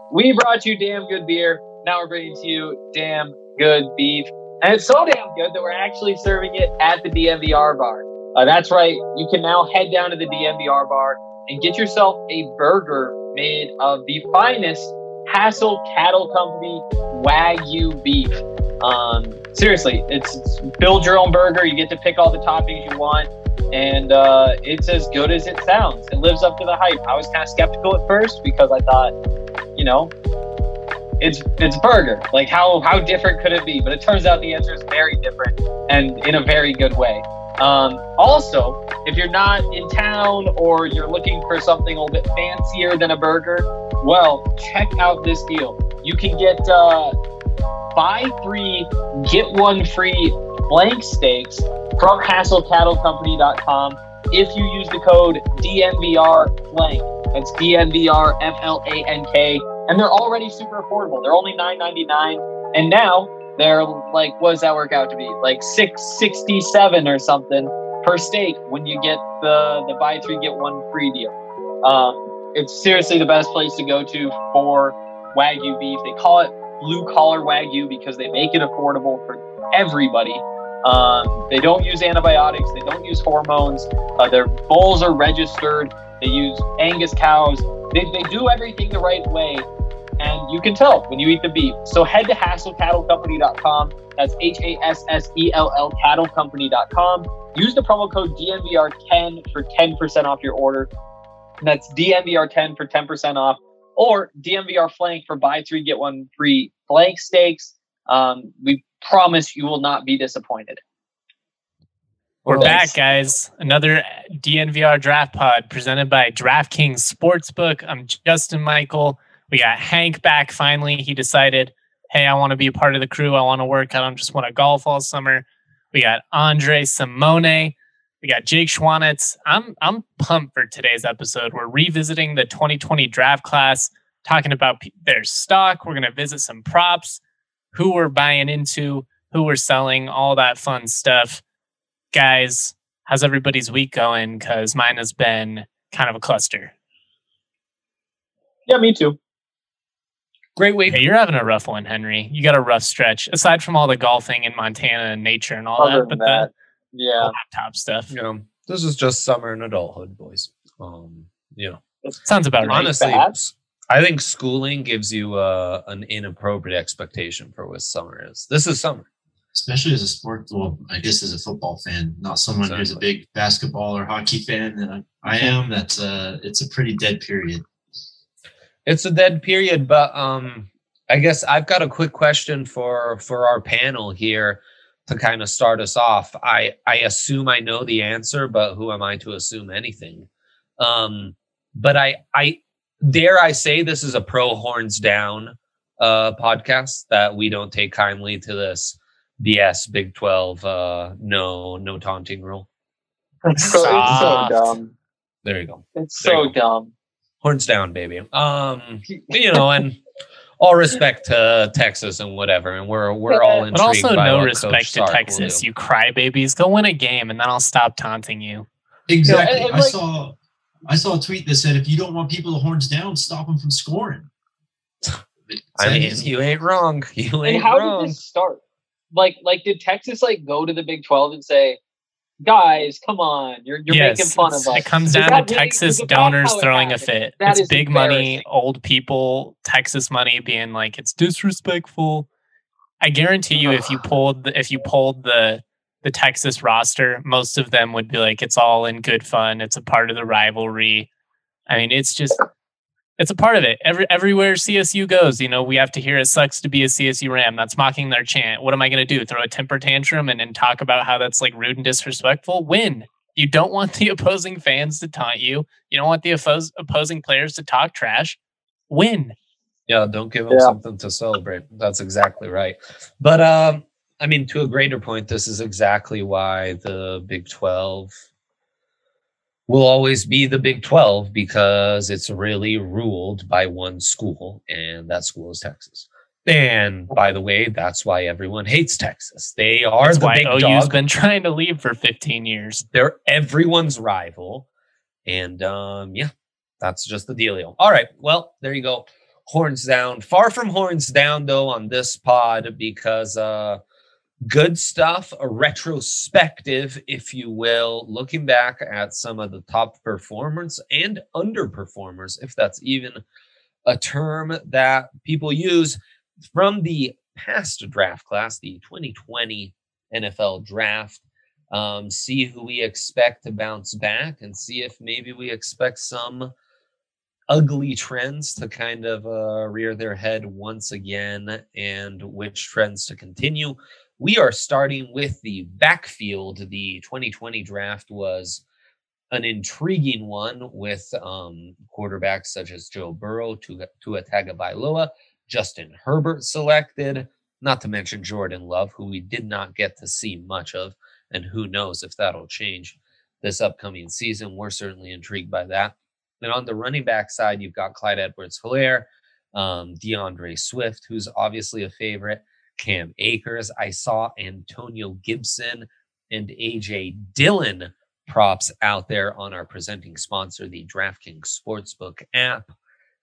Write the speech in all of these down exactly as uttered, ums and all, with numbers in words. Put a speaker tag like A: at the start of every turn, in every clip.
A: We brought you damn good beer. Now we're bringing to you damn good beef. And it's so damn good that we're actually serving it at the D M V R bar. Uh, that's right. You can now head down to the D M V R bar and get yourself a burger made of the finest Hassel Cattle Company Wagyu beef. Um, seriously, it's, it's build your own burger. You get to pick all the toppings you want. And uh, it's as good as it sounds. It lives up to the hype. I was kind of skeptical at first because I thought, you know, it's it's burger. Like, how how different could it be? But it turns out the answer is very different and in a very good way. Um, also, if you're not in town or you're looking for something a little bit fancier than a burger, well, check out this deal. You can get uh, buy three, get one free flank steaks from hassel cattle company dot com if you use the code D N V R flank. That's D N V R F L A N K. And they're already super affordable. They're only nine ninety-nine. And now they're like, what does that work out to be? Like six sixty-seven or something per steak when you get the, the buy three, get one free deal. Um, it's seriously the best place to go to for Wagyu beef. They call it blue collar Wagyu because they make it affordable for everybody. Um, they don't use antibiotics. They don't use hormones. Uh, their bulls are registered. They use Angus cows. They, they do everything the right way. And you can tell when you eat the beef. So head to hassel cattle company dot com. That's H A S S E L L cattle company dot com. Use the promo code D N V R ten for ten percent off your order. And that's D N V R ten for ten percent off. Or D M V R flank for buy three, get one free flank steaks. Um, we promise you will not be disappointed.
B: We're back, guys. Another D N V R Draft Pod presented by DraftKings Sportsbook. I'm Justin Michael. We got Hank back finally. He decided, hey, I want to be a part of the crew. I want to work. I don't just want to golf all summer. We got Andre Simone. We got Jake Schwanitz. I'm I'm pumped for today's episode. We're revisiting the twenty twenty draft class, talking about p- their stock. We're going to visit some props, who we're buying into, who we're selling, all that fun stuff. Guys, how's everybody's week going? Because mine has been kind of a cluster.
A: Yeah, me too.
B: Great week. Hey, you're having a rough one, Henry. You got a rough stretch, aside from all the golfing in Montana and nature and all
A: Other
B: that. But
A: that,
B: the
A: yeah,
B: laptop stuff.
C: You know, this is just summer and adulthood, boys. Um, you know,
B: sounds about right.
C: Honestly,
A: bad.
C: I think schooling gives you uh, an inappropriate expectation for what summer is. This is summer.
D: Especially as a sport, well, I guess as a football fan, not someone
C: Exactly.
D: who's a big basketball or hockey fan, and I, I am. That's uh it's a pretty dead period.
C: It's a dead period, but um, I guess I've got a quick question for for our panel here to kind of start us off. I I assume I know the answer, but who am I to assume anything? Um, but I I dare I say this is a pro horns down uh podcast, that we don't take kindly to this B S Big twelve uh no no taunting rule.
A: It's so, it's so
B: Soft.
A: dumb.
C: There you go.
A: It's
C: There
A: so
C: you go.
A: dumb.
C: Horns down, baby. Um, you know, and all respect to Texas and whatever, and we're we're all intrigued
B: But also
C: by
B: no
C: what
B: respect
C: Coach
B: to
C: Sark will
B: Texas,
C: do.
B: you crybabies. Go win a game, and then I'll stop taunting you.
D: Exactly.
A: and- and
D: I
A: like-
D: saw I saw a tweet that said, if you don't want people to horns down, stop them from scoring.
C: I mean, you ain't wrong. You ain't
A: And how
C: wrong.
A: did this start? Like, like did Texas like go to the Big twelve and say, "Guys, come on, you're you're
B: yes,
A: making fun of
B: it's-
A: us"?
B: it comes
A: Is
B: down
A: that
B: to
A: really-
B: Texas
A: is that
B: donors
A: how it
B: throwing a
A: happened?
B: fit.
A: That
B: It's
A: is
B: big money,
A: embarrassing.
B: old people, Texas money being like, it's disrespectful. I guarantee you, if you pulled the, if you pulled the the Texas roster, most of them would be like, it's all in good fun. It's a part of the rivalry. I mean, it's just, it's a part of it. Every everywhere C S U goes, you know, we have to hear it sucks to be a C S U Ram. That's mocking their chant. What am I going to do? Throw a temper tantrum and then talk about how that's like rude and disrespectful? Win. You don't want the opposing fans to taunt you. You don't want the oppos- opposing players to talk trash. Win.
C: Yeah, don't give them
A: Yeah.
C: something to celebrate. That's exactly right. But um, I mean, to a greater point, this is exactly why the Big twelve will always be the Big twelve, because it's really ruled by one school, and that school is Texas. And by the way, that's why everyone hates Texas. They are
B: That's
C: the
B: why
C: big
B: O U's
C: dog.
B: been trying to leave for fifteen years.
C: They're everyone's rival. And um, yeah, that's just the dealio. All right. Well, there you go. horns down. Far from horns down, though, on this pod, because uh, good stuff, a retrospective, if you will, looking back at some of the top performers and underperformers, if that's even a term that people use, from the past draft class, the twenty twenty N F L draft. Um, see who we expect to bounce back and see if maybe we expect some ugly trends to kind of uh, rear their head once again and which trends to continue. We are starting with the backfield. The twenty twenty draft was an intriguing one with um, quarterbacks such as Joe Burrow, Tua, Tua Tagovailoa, Justin Herbert selected, not to mention Jordan Love, who we did not get to see much of. And who knows if that'll change this upcoming season. We're certainly intrigued by that. And on the running back side, you've got Clyde Edwards-Helaire, um, DeAndre Swift, who's obviously a favorite, Cam Akers. I saw Antonio Gibson and A J Dillon props out there on our presenting sponsor, the DraftKings Sportsbook app.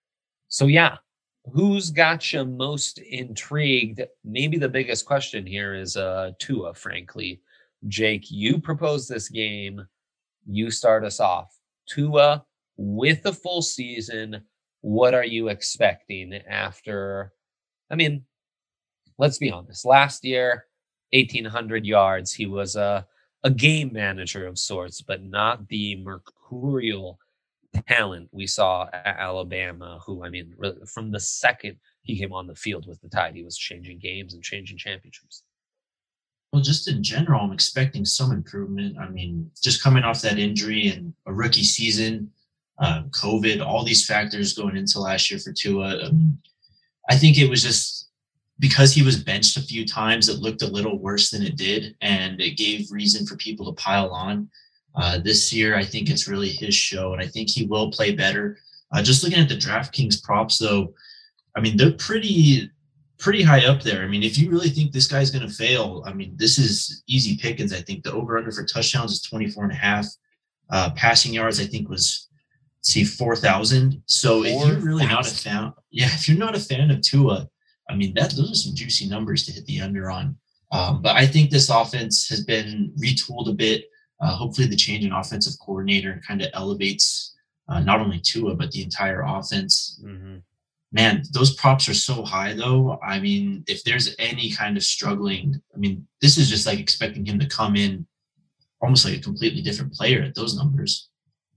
C: So yeah, who's got you most intrigued? Maybe the biggest question here is uh, Tua, frankly. Jake, you proposed this game. You start us off. Tua with a full season. What are you expecting after? I mean, let's be honest. Last year, eighteen hundred yards. He was a, a game manager of sorts, but not the mercurial talent we saw at Alabama, who, I mean, from the second he came on the field with the Tide, he was changing games and changing championships.
D: Well, just in general, I'm expecting some improvement. I mean, just coming off that injury and a rookie season, uh, COVID, all these factors going into last year for Tua. Um, I think it was just because he was benched a few times, it looked a little worse than it did, and it gave reason for people to pile on. Uh, this year, I think it's really his show, and I think he will play better. Uh, just looking at the DraftKings props, though, I mean, they're pretty – pretty high up there. I mean, if you really think this guy's going to fail, I mean, this is easy pickings. I think the over-under for touchdowns is twenty-four and a half. Uh, passing yards, I think, was, let's see, four thousand. So if you're really not a fan, yeah, if you're not a fan of Tua, I mean, that those are some juicy numbers to hit the under on. Um, but I think this offense has been retooled a bit. Uh, hopefully the change in offensive coordinator kind of elevates uh, not only Tua, but the entire offense. Mm-hmm. Man, those props are so high, though. I mean, if there's any kind of struggling, I mean, this is just like expecting him to come in almost like a completely different player at those numbers.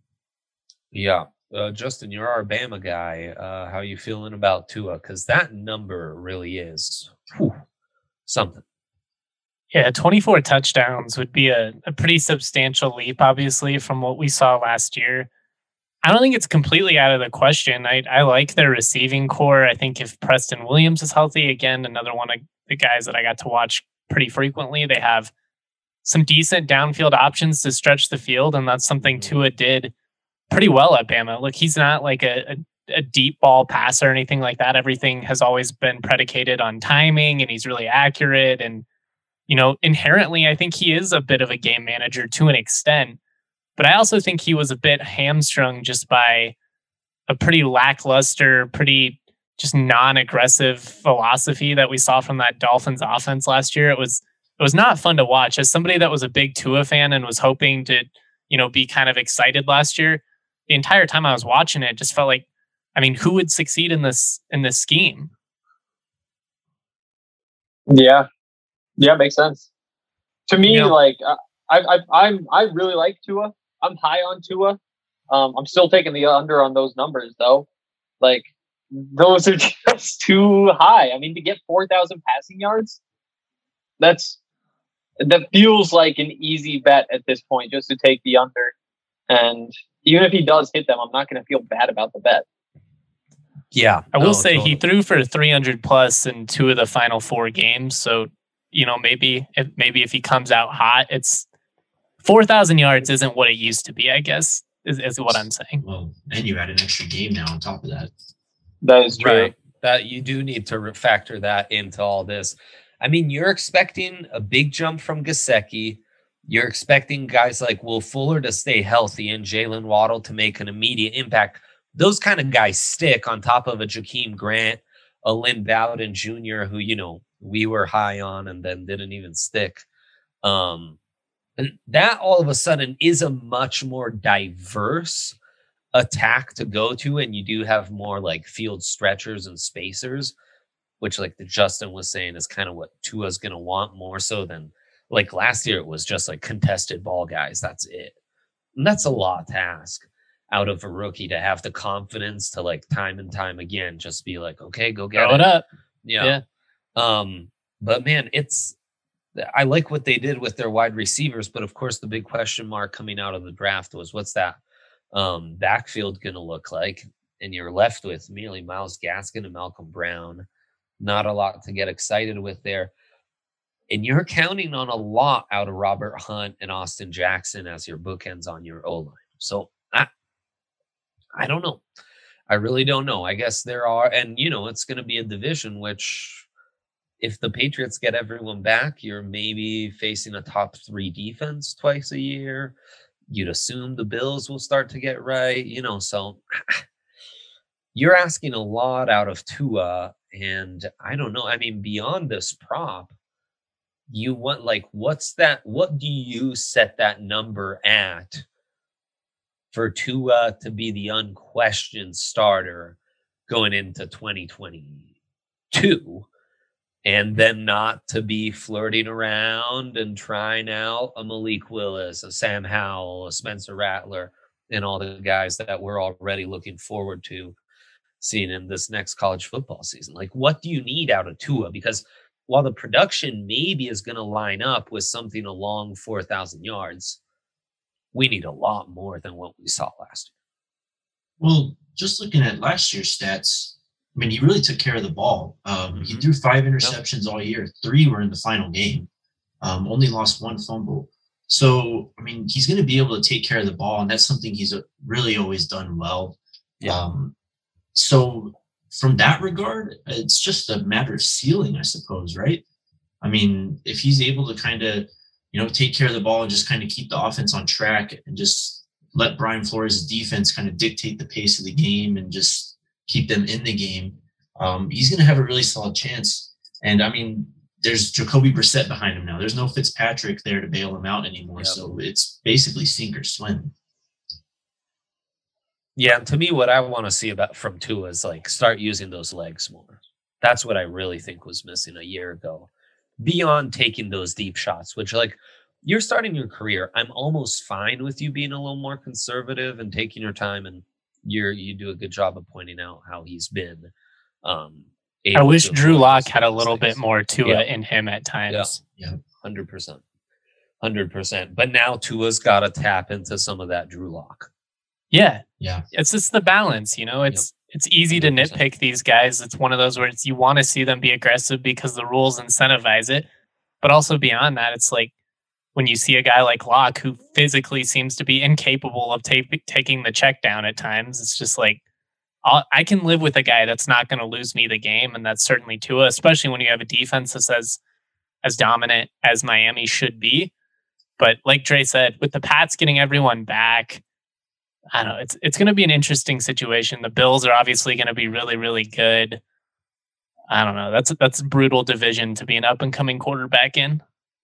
C: Yeah. Uh, Justin, you're our Bama guy. Uh, how are you feeling about Tua? Because that number really is whew, something.
B: Yeah, twenty-four touchdowns would be a, a pretty substantial leap, obviously, from what we saw last year. I don't think it's completely out of the question. I, I like their receiving core. I think if Preston Williams is healthy, again, another one of the guys that I got to watch pretty frequently, they have some decent downfield options to stretch the field, and that's something Tua did pretty well at Bama. Look, he's not like a, a, a deep ball passer or anything like that. Everything has always been predicated on timing, and he's really accurate. And, you know, inherently, I think he is a bit of a game manager to an extent. But I also think he was a bit hamstrung just by a pretty lackluster, pretty just non-aggressive philosophy that we saw from that Dolphins offense last year. It was it was not fun to watch. As somebody that was a big Tua fan and was hoping to, you know, be kind of excited last year, the entire time I was watching it, just felt like, I mean, who would succeed in this in this scheme?
A: Yeah, yeah, makes sense. To me,
B: you know,
A: like I, I, I'm, I really like Tua. I'm high on Tua. Um, I'm still taking the under on those numbers, though. Like, those are just too high. I mean, to get four thousand passing yards, that's that feels like an easy bet at this point, just to take the under. And even if he does hit them, I'm not going to feel bad about the bet.
C: Yeah,
B: I will
C: no,
B: say
C: totally.
B: he threw for three hundred plus in two of the final four games. So, you know, maybe if maybe if he comes out hot, it's four thousand yards isn't what it used to be, I guess, is, is what I'm saying.
D: Well, and you add an extra game now on top of that.
A: That is true.
C: Right. That you do need to factor that into all this. I mean, you're expecting a big jump from Gesicki. You're expecting guys like Will Fuller to stay healthy and Jalen Waddle to make an immediate impact. those kind of guys stick on top of a Jakeem Grant, a Lynn Bowden Junior, who, you know, we were high on and then didn't even stick. Um, and that all of a sudden is a much more diverse attack to go to. And you do have more like field stretchers and spacers, which like the Justin was saying is kind of what Tua's going to want more so than like last year. It was just like contested ball guys. That's it. And that's a lot to ask out of a rookie to have the confidence to like time and time again, just be like, okay, go get
B: Throw
C: it.
B: it up.
C: Yeah.
B: Yeah.
C: Um, but man, it's, I like what they did with their wide receivers, but of course the big question mark coming out of the draft was what's that um, backfield going to look like? And you're left with merely Myles Gaskin and Malcolm Brown. Not a lot to get excited with there. And you're counting on a lot out of Robert Hunt and Austin Jackson as your bookends on your O-line. So I, I don't know. I really don't know. I guess there are, and you know, it's going to be a division, which if the Patriots get everyone back, you're maybe facing a top three defense twice a year. You'd assume the Bills will start to get right, you know, so you're asking a lot out of Tua. And I don't know. I mean, beyond this prop, you want like, what's that? What do you set that number at for Tua to be the unquestioned starter going into twenty twenty-two? And then not to be flirting around and trying out a Malik Willis, a Sam Howell, a Spencer Rattler, and all the guys that we're already looking forward to seeing in this next college football season. Like, what do you need out of Tua? Because while the production maybe is going to line up with something along four thousand yards, we need a lot more than what we saw last year.
D: Well, just looking at last year's stats, I mean, he really took care of the ball. Um, he threw five interceptions yep. all year. Three were in the final game. Um, only lost one fumble. So, I mean, he's going to be able to take care of the ball, and that's something he's really always done well.
C: Yeah.
D: Um, so, from that regard, it's just a matter of ceiling, I suppose, right? I mean, if he's able to kind of, you know, take care of the ball and just kind of keep the offense on track and just let Brian Flores' defense kind of dictate the pace of the game and just keep them in the game, um, he's going to have a really solid chance. And, I mean, there's Jacoby Brissett behind him now. There's no Fitzpatrick there to bail him out anymore. Yep. So it's basically sink or swim.
C: Yeah, to me, what I want to see about from Tua is like start using those legs more. That's what I really think was missing a year ago. Beyond taking those deep shots, which like you're starting your career, I'm almost fine with you being a little more conservative and taking your time, and you're you do a good job of pointing out how he's been. Um,
B: I wish Drew Lock had a little things. bit more Tua yeah. in him at times.
C: Yeah, hundred percent, hundred percent. But now Tua's got to tap into some of that Drew Lock.
B: Yeah.
D: Yeah.
B: It's just the balance, you know, it's, yep. it's easy to nitpick these guys. It's one of those where it's, you want to see them be aggressive because the rules incentivize it. But also beyond that, it's like when you see a guy like Locke who physically seems to be incapable of ta- taking the check down at times, it's just like, I'll, I can live with a guy that's not going to lose me the game. And that's certainly Tua, especially when you have a defense that's as, as dominant as Miami should be. But like Dre said, with the Pats getting everyone back, I don't know. It's it's going to be an interesting situation. The Bills are obviously going to be really, really good. I don't know. That's that's a brutal division to be an up and coming quarterback in.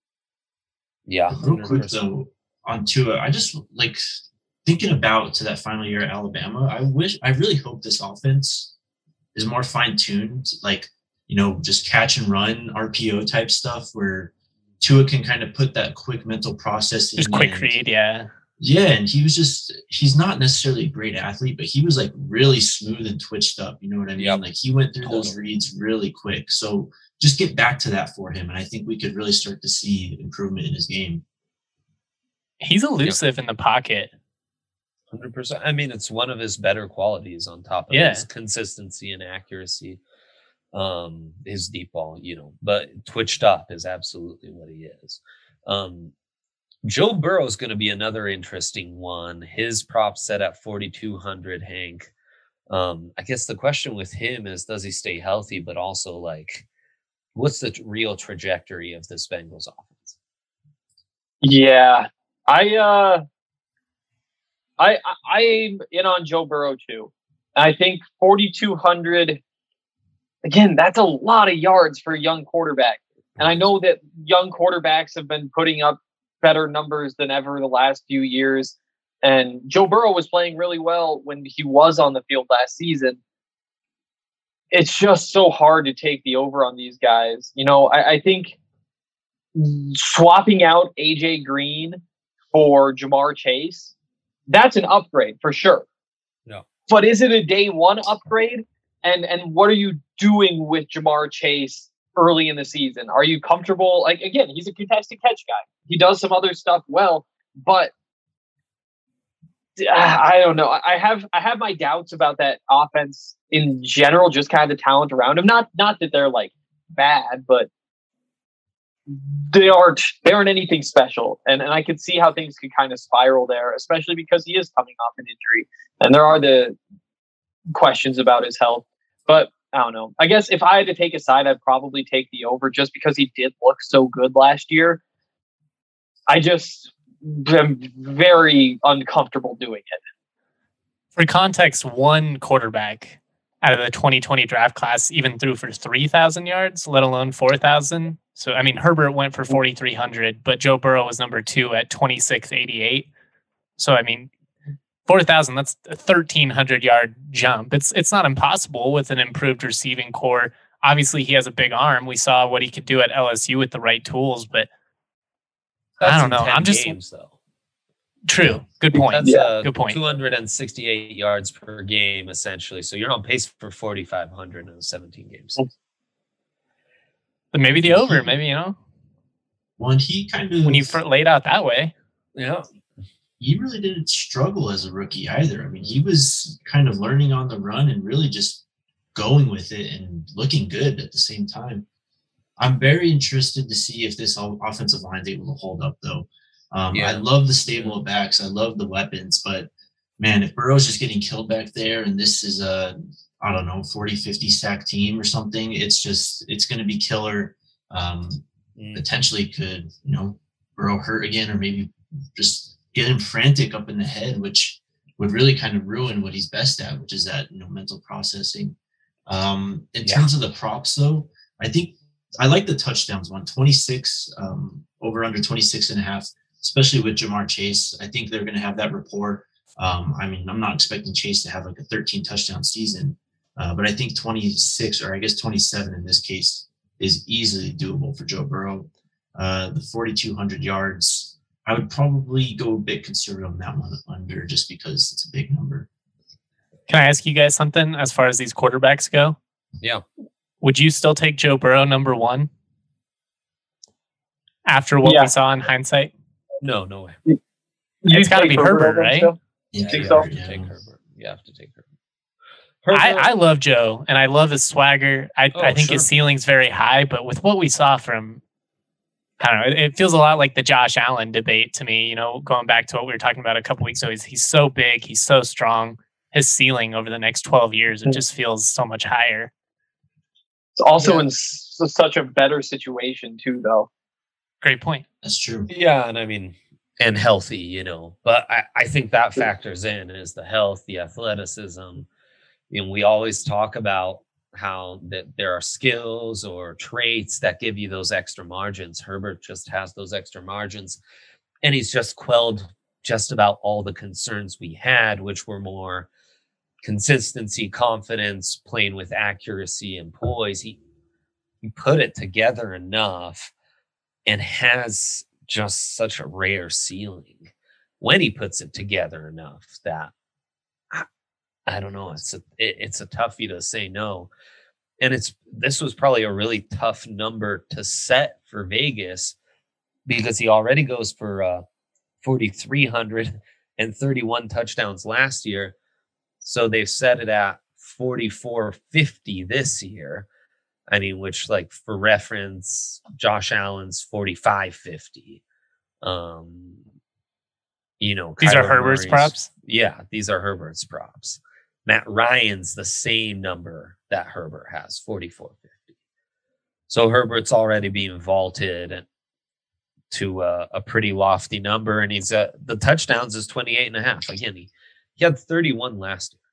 C: Yeah.
D: Real quick though, on Tua, I just like thinking about to that final year at Alabama. I wish, I really hope this offense is more fine tuned, like, you know, just catch and run R P O type stuff where Tua can kind of put that quick mental process in.
B: Just quick read, yeah.
D: Yeah, and he was just, he's not necessarily a great athlete, but he was like really smooth and twitched up. You know what I mean? Yep. Like he went through totally. those reads really quick. So just get back to that for him. And I think we could really start to see improvement in his game.
B: He's elusive yep. in the pocket.
C: one hundred percent. I mean, it's one of his better qualities on top of
B: yeah.
C: his consistency and accuracy. Um, his deep ball, you know, but twitched up is absolutely what he is. Um, Joe Burrow is going to be another interesting one. His prop set at forty-two hundred, Hank. Um, I guess the question with him is, does he stay healthy? But also, like, what's the t- real trajectory of this Bengals offense?
A: Yeah, I, uh, I, I, I'm in on Joe Burrow too. I think forty-two hundred, again, that's a lot of yards for a young quarterback. And I know that young quarterbacks have been putting up better numbers than ever the last few years. And Joe Burrow was playing really well when he was on the field last season. It's just so hard to take the over on these guys. You know, I, I think swapping out A J Green for Jamar Chase, that's an upgrade for sure.
C: No.
A: But is it a day one upgrade? And and what are you doing with Jamar Chase early in the season? Are you comfortable? Like, again, he's a contested catch guy. He does some other stuff well, but I don't know. I have I have my doubts about that offense in general, just kind of the talent around him. Not not that they're like bad, but they aren't they aren't anything special. And and I could see how things could kind of spiral there, especially because he is coming off an injury. And there are the questions about his health. But I don't know. I guess if I had to take a side, I'd probably take the over just because he did look so good last year. I just am very uncomfortable doing it.
B: For context, one quarterback out of the twenty twenty draft class even threw for three thousand yards, let alone four thousand. So, I mean, Herbert went for forty-three hundred, but Joe Burrow was number two at twenty-six eighty-eight. So, I mean, four thousand, that's a thirteen hundred yard jump. It's it's not impossible with an improved receiving core. Obviously, he has a big arm. We saw what he could do at L S U with the right tools, but
C: That's
B: I don't know. I'm just
C: games, though.
B: True. Good point.
C: That's
B: yeah,
C: uh,
B: good point.
C: two hundred sixty-eight yards per game, essentially. So you're on pace for forty-five hundred in seventeen games.
B: But maybe the over, maybe, you know.
D: When he kind of
B: when you laid out that way.
C: Yeah.
D: He really didn't struggle as a rookie either. I mean, he was kind of learning on the run and really just going with it and looking good at the same time. I'm very interested to see if this offensive line is able to hold up, though. Um, yeah. I love the stable of backs. I love the weapons. But, man, if Burrow's just getting killed back there and this is a, I don't know, forty, fifty sack team or something, it's just – it's going to be killer. Um, mm. Potentially could, you know, Burrow hurt again or maybe just – get him frantic up in the head, which would really kind of ruin what he's best at, which is that, you know, mental processing. Um, in yeah. terms of the props, though, I think I like the touchdowns one, twenty-six, um, over under twenty-six and a half, especially with Jamar Chase. I think they're going to have that rapport. Um, I mean, I'm not expecting Chase to have like a thirteen touchdown season, uh, but I think twenty-six or I guess twenty-seven in this case is easily doable for Joe Burrow. Uh, the forty-two hundred yards, I would probably go a bit conservative on that one under just because it's a big number.
B: Can I ask you guys something as far as these quarterbacks go?
C: Yeah.
B: Would you still take Joe Burrow number one after what yeah. we saw in hindsight?
C: No, no way.
B: You it's got to be Herbert, Herbert right?
D: Yeah,
C: you
D: think
C: so?
D: have to
C: yeah.
D: take
C: Herbert. You have to take Herbert.
B: Herbert. I, I love Joe, and I love his swagger. I,
C: oh,
B: I think
C: sure.
B: his ceiling's very high, but with what we saw from I don't know. It, it feels a lot like the Josh Allen debate to me, you know, going back to what we were talking about a couple weeks ago. He's, he's so big. He's so strong. His ceiling over the next twelve years, it just feels so much higher.
A: It's also yeah. in s- such a better situation, too, though.
B: Great point.
D: That's true.
C: Yeah, and I mean, and healthy, you know. But I, I think that factors in is the health, the athleticism. You know, we always talk about how that there are skills or traits that give you those extra margins. Herbert just has those extra margins, and he's just quelled just about all the concerns we had, which were more consistency, confidence, playing with accuracy and poise. He he put it together enough and has just such a rare ceiling when he puts it together enough that I, I don't know. It's a it, it's a toughie to say no. And it's this was probably a really tough number to set for Vegas because he already goes for uh, forty-three hundred and thirty-one touchdowns last year. So they've set it at forty-four fifty this year. I mean, which, like, for reference, Josh Allen's forty-five fifty. Um, you know,
B: these
C: Kyler
B: are Herbert's
C: Murray's,
B: props.
C: Yeah, these are Herbert's props. Matt Ryan's the same number that Herbert has, forty-four fifty. So Herbert's already being vaulted to a, a pretty lofty number, and he's uh, the touchdowns is twenty-eight and a half. Again, he, he had thirty-one last year.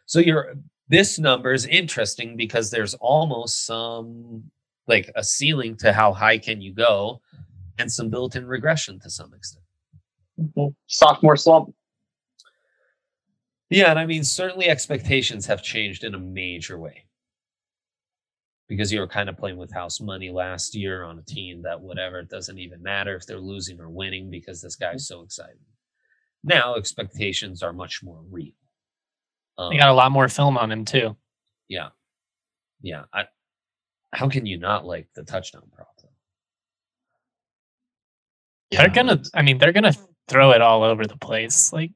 C: So you're this number is interesting because there's almost some like a ceiling to how high can you go, and some built-in regression to some extent.
A: Mm-hmm. Sophomore slump.
C: Yeah, and I mean certainly expectations have changed in a major way. Because you were kind of playing with house money last year on a team that whatever, it doesn't even matter if they're losing or winning because this guy's so exciting. Now expectations are much more real. Um,
B: they got a lot more film on him too.
C: Yeah. Yeah. I, how can you not like the touchdown prop?
B: Yeah. They're gonna, I mean, they're gonna throw it all over the place. Like,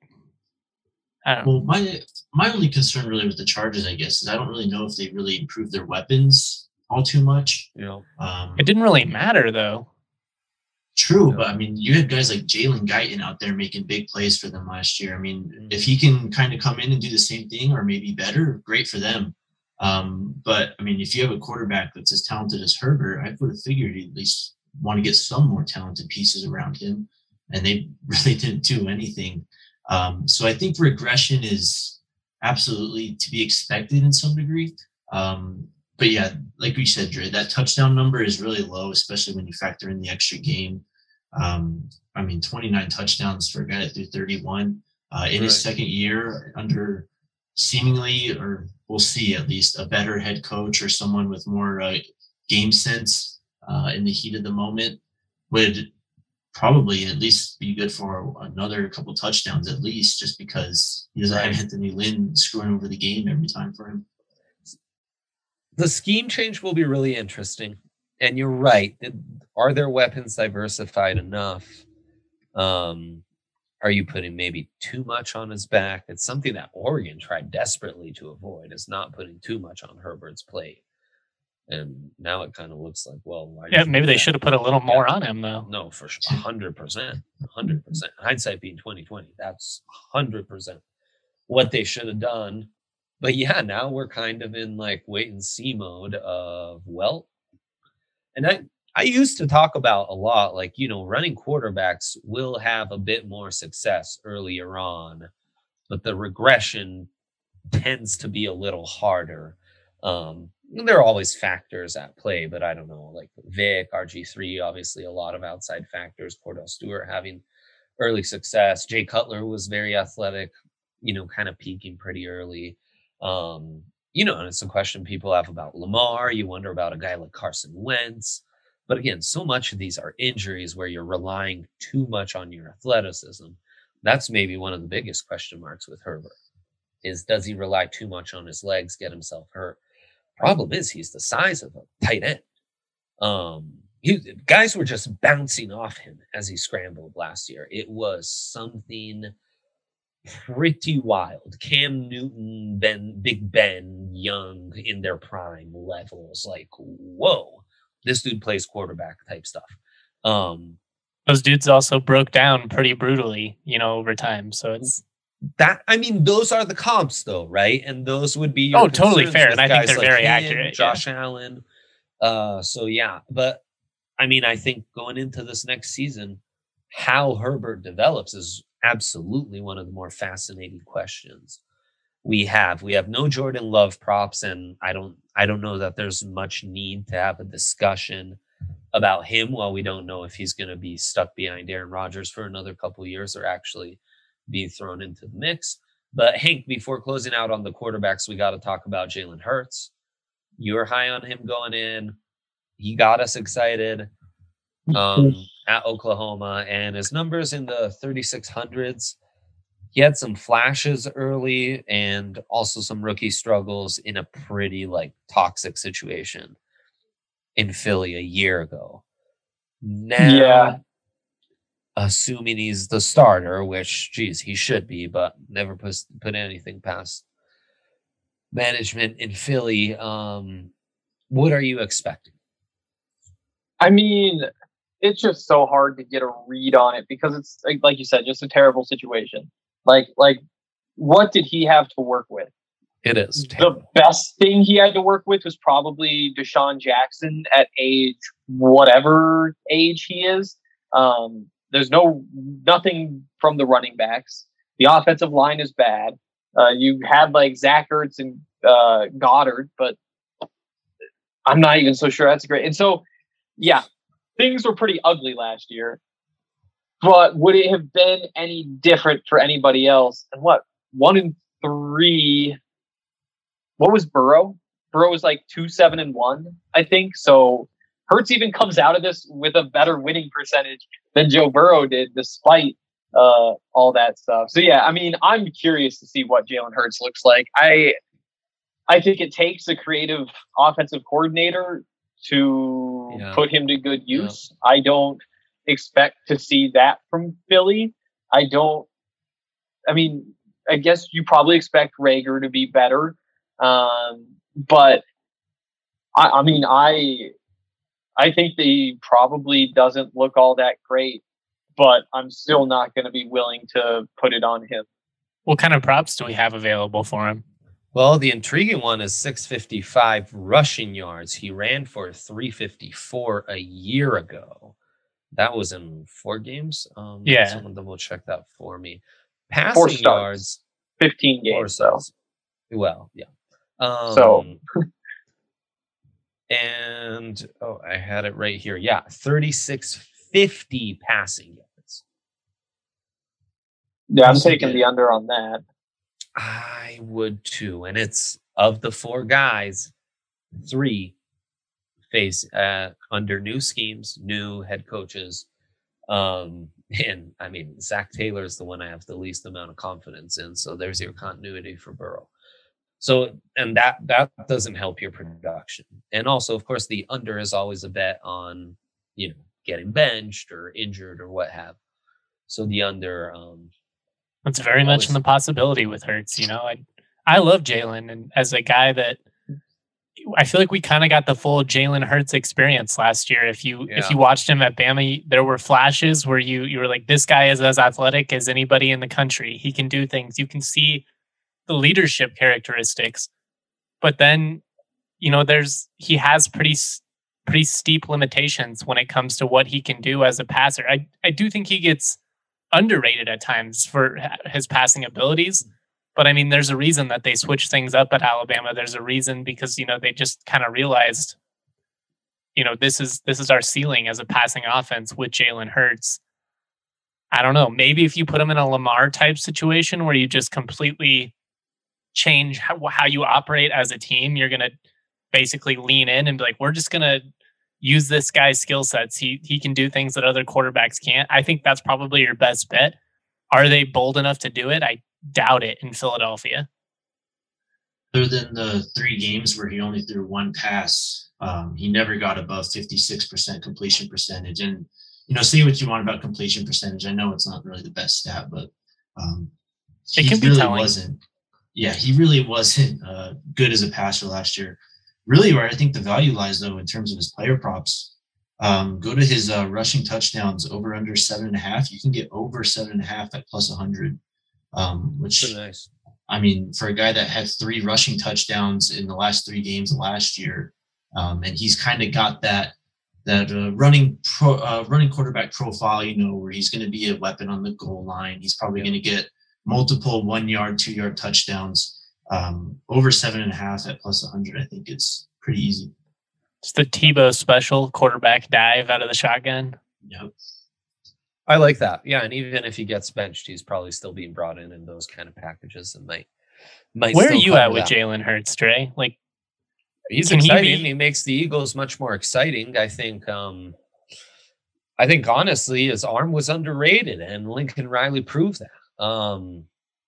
B: I don't know.
D: Well, my my only concern really with the Chargers, I guess, is I don't really know if they really improved their weapons all too much.
C: You know,
D: um,
B: it didn't really matter though.
D: True,
C: Yeah.
D: But I mean, you had guys like Jalen Guyton out there making big plays for them last year. I mean, if he can kind of come in and do the same thing or maybe better, great for them. Um, but I mean, if you have a quarterback that's as talented as Herbert, I would have figured he'd at least want to get some more talented pieces around him, and they really didn't do anything. Um, so I think regression is absolutely to be expected in some degree. Um, but yeah, like we said, Dre, that touchdown number is really low, especially when you factor in the extra game. Um, I mean, twenty-nine touchdowns for a guy that threw thirty-one uh, in
C: Right.
D: his second year under seemingly, or we'll see at least, a better head coach or someone with more uh, game sense uh, in the heat of the moment would probably at least be good for another couple touchdowns at least, just because he doesn't
C: Right.
D: have Anthony Lynn screwing over the game every time for him.
C: The scheme change will be really interesting. And you're right. Are their weapons diversified enough? Um, are you putting maybe too much on his back? It's something that Oregon tried desperately to avoid, is not putting too much on Herbert's plate. And now it kind of looks like, well, why
B: Yeah,
C: did you
B: maybe
C: do
B: they
C: that?
B: should have put a little more on him though.
C: No, for sure. one hundred percent. one hundred percent. Hindsight being twenty twenty. That's one hundred percent what they should have done. But yeah, now we're kind of in like wait and see mode of, well, and I, I used to talk about a lot, like, you know, running quarterbacks will have a bit more success earlier on, but the regression tends to be a little harder. Um, there are always factors at play, but I don't know, like Vic, R G three, obviously a lot of outside factors, Cordell Stewart having early success. Jay Cutler was very athletic, you know, kind of peaking pretty early. Um, you know, and it's a question people have about Lamar. You wonder about a guy like Carson Wentz. But again, so much of these are injuries where you're relying too much on your athleticism. That's maybe one of the biggest question marks with Herbert, is does he rely too much on his legs, get himself hurt? Problem is he's the size of a tight end. Um, he, guys were just bouncing off him as he scrambled last year. It was something pretty wild. Cam Newton, Ben, Big Ben, Young in their prime levels. Like, whoa, this dude plays quarterback type stuff. Um,
B: Those dudes also broke down pretty brutally, you know, over time. So it's
C: that. I mean, those are the comps, though, right? And those would be your
B: oh, totally
C: concerns
B: fair.
C: with
B: And I think
C: guys
B: they're
C: like
B: very
C: him,
B: accurate.
C: Josh Allen. Uh, so yeah, but I mean, I think going into this next season, how Herbert develops is absolutely one of the more fascinating questions we have. We have no Jordan Love props, and I don't I don't know that there's much need to have a discussion about him while we don't know if he's going to be stuck behind Aaron Rodgers for another couple of years or actually be thrown into the mix. But Hank, before closing out on the quarterbacks, we got to talk about Jalen Hurts. You were high on him going in. He got us excited um, at Oklahoma, and his numbers in the thirty-six hundreds. He had some flashes early and also some rookie struggles in a pretty like toxic situation in Philly a year ago. Now,
A: Yeah.
C: assuming he's the starter, which, geez, he should be, but never put, put anything past management in Philly. Um, what are you expecting?
A: I mean, it's just so hard to get a read on it because it's like, like you said, just a terrible situation. Like, like, what did he have to work with?
C: It is
A: The
C: terrible.
A: best thing he had to work with was probably Deshaun Jackson at age whatever age he is. Um, there's no nothing from the running backs. The offensive line is bad. Uh, you had like Zach Ertz and uh, Goddard, but I'm not even so sure that's great. And so, yeah, things were pretty ugly last year. But would it have been any different for anybody else? And what, one and three? What was Burrow? Burrow was like two, seven, and one, I think. So Hurts even comes out of this with a better winning percentage than Joe Burrow did, despite uh, all that stuff. So yeah, I mean, I'm curious to see what Jalen Hurts looks like. I I think it takes a creative offensive coordinator to yeah. put him to good use. Yeah. I don't expect to see that from Philly. I don't. I mean, I guess you probably expect Rager to be better, um, but I, I mean, I I think that he probably doesn't look all that great, but I'm still not going to be willing to put it on him.
B: What kind of props do we have available for him?
C: Well, the intriguing one is six fifty-five rushing yards. He ran for three fifty-four a year ago. That was in four games. Um,
B: yeah.
C: Someone double check that for me. Passing yards.
A: fifteen games. So.
C: Well, yeah. Um,
A: so.
C: And, oh, I had it right here. Yeah, thirty-six fifty passing yards.
A: Yeah, I'm taking the under on that.
C: I would too. And it's of the four guys, three face uh, under new schemes, new head coaches. Um, and I mean, Zach Taylor is the one I have the least amount of confidence in. So there's your continuity for Burrow. So, and that, that doesn't help your production. And also, of course, the under is always a bet on, you know, getting benched or injured or what have. So the under, um,
B: It's very much in the possibility with Hurts. You know, I I love Jalen, and as a guy that I feel like we kind of got the full Jalen Hurts experience last year. If you yeah. if you watched him at Bama, there were flashes where you you were like, this guy is as athletic as anybody in the country. He can do things. You can see the leadership characteristics, but then you know there's he has pretty pretty steep limitations when it comes to what he can do as a passer. I I do think he gets underrated at times for his passing abilities. But I mean, there's a reason that they switched things up at Alabama. There's a reason because, you know, they just kind of realized, you know, this is, this is our ceiling as a passing offense with Jalen Hurts. I don't know. Maybe if you put him in a Lamar type situation where you just completely change how, how you operate as a team, you're going to basically lean in and be like, we're just going to use this guy's skill sets. He he can do things that other quarterbacks can't. I think that's probably your best bet. Are they bold enough to do it? I doubt it in Philadelphia.
D: Other than the three games where he only threw one pass, um, he never got above fifty-six percent completion percentage. And, you know, say what you want about completion percentage. I know it's not really the best stat, but um,
B: it can
D: he
B: be
D: really
B: telling.
D: wasn't. Yeah, he really wasn't uh, good as a passer last year. Really, where I think the value lies, though, in terms of his player props, um, go to his uh, rushing touchdowns over under seven and a half. You can get over seven and a half at plus one hundred, um, which,
C: Pretty nice.
D: I mean, for a guy that had three rushing touchdowns in the last three games of last year, um, and he's kind of got that that uh, running pro, uh, running quarterback profile, you know, where he's going to be a weapon on the goal line. He's probably yeah. going to get multiple one yard, two yard touchdowns. Um, over seven and a half at plus one hundred, I think it's pretty easy.
B: It's the Tebow special quarterback dive out of the shotgun.
D: Yep.
C: I like that. Yeah, and even if he gets benched, he's probably still being brought in in those kind of packages and might. might
B: Where are you at with Jalen Hurts, Dre? Like,
C: he's exciting. He, be... he makes the Eagles much more exciting. I think. Um, I think honestly, his arm was underrated, and Lincoln Riley proved that. Um,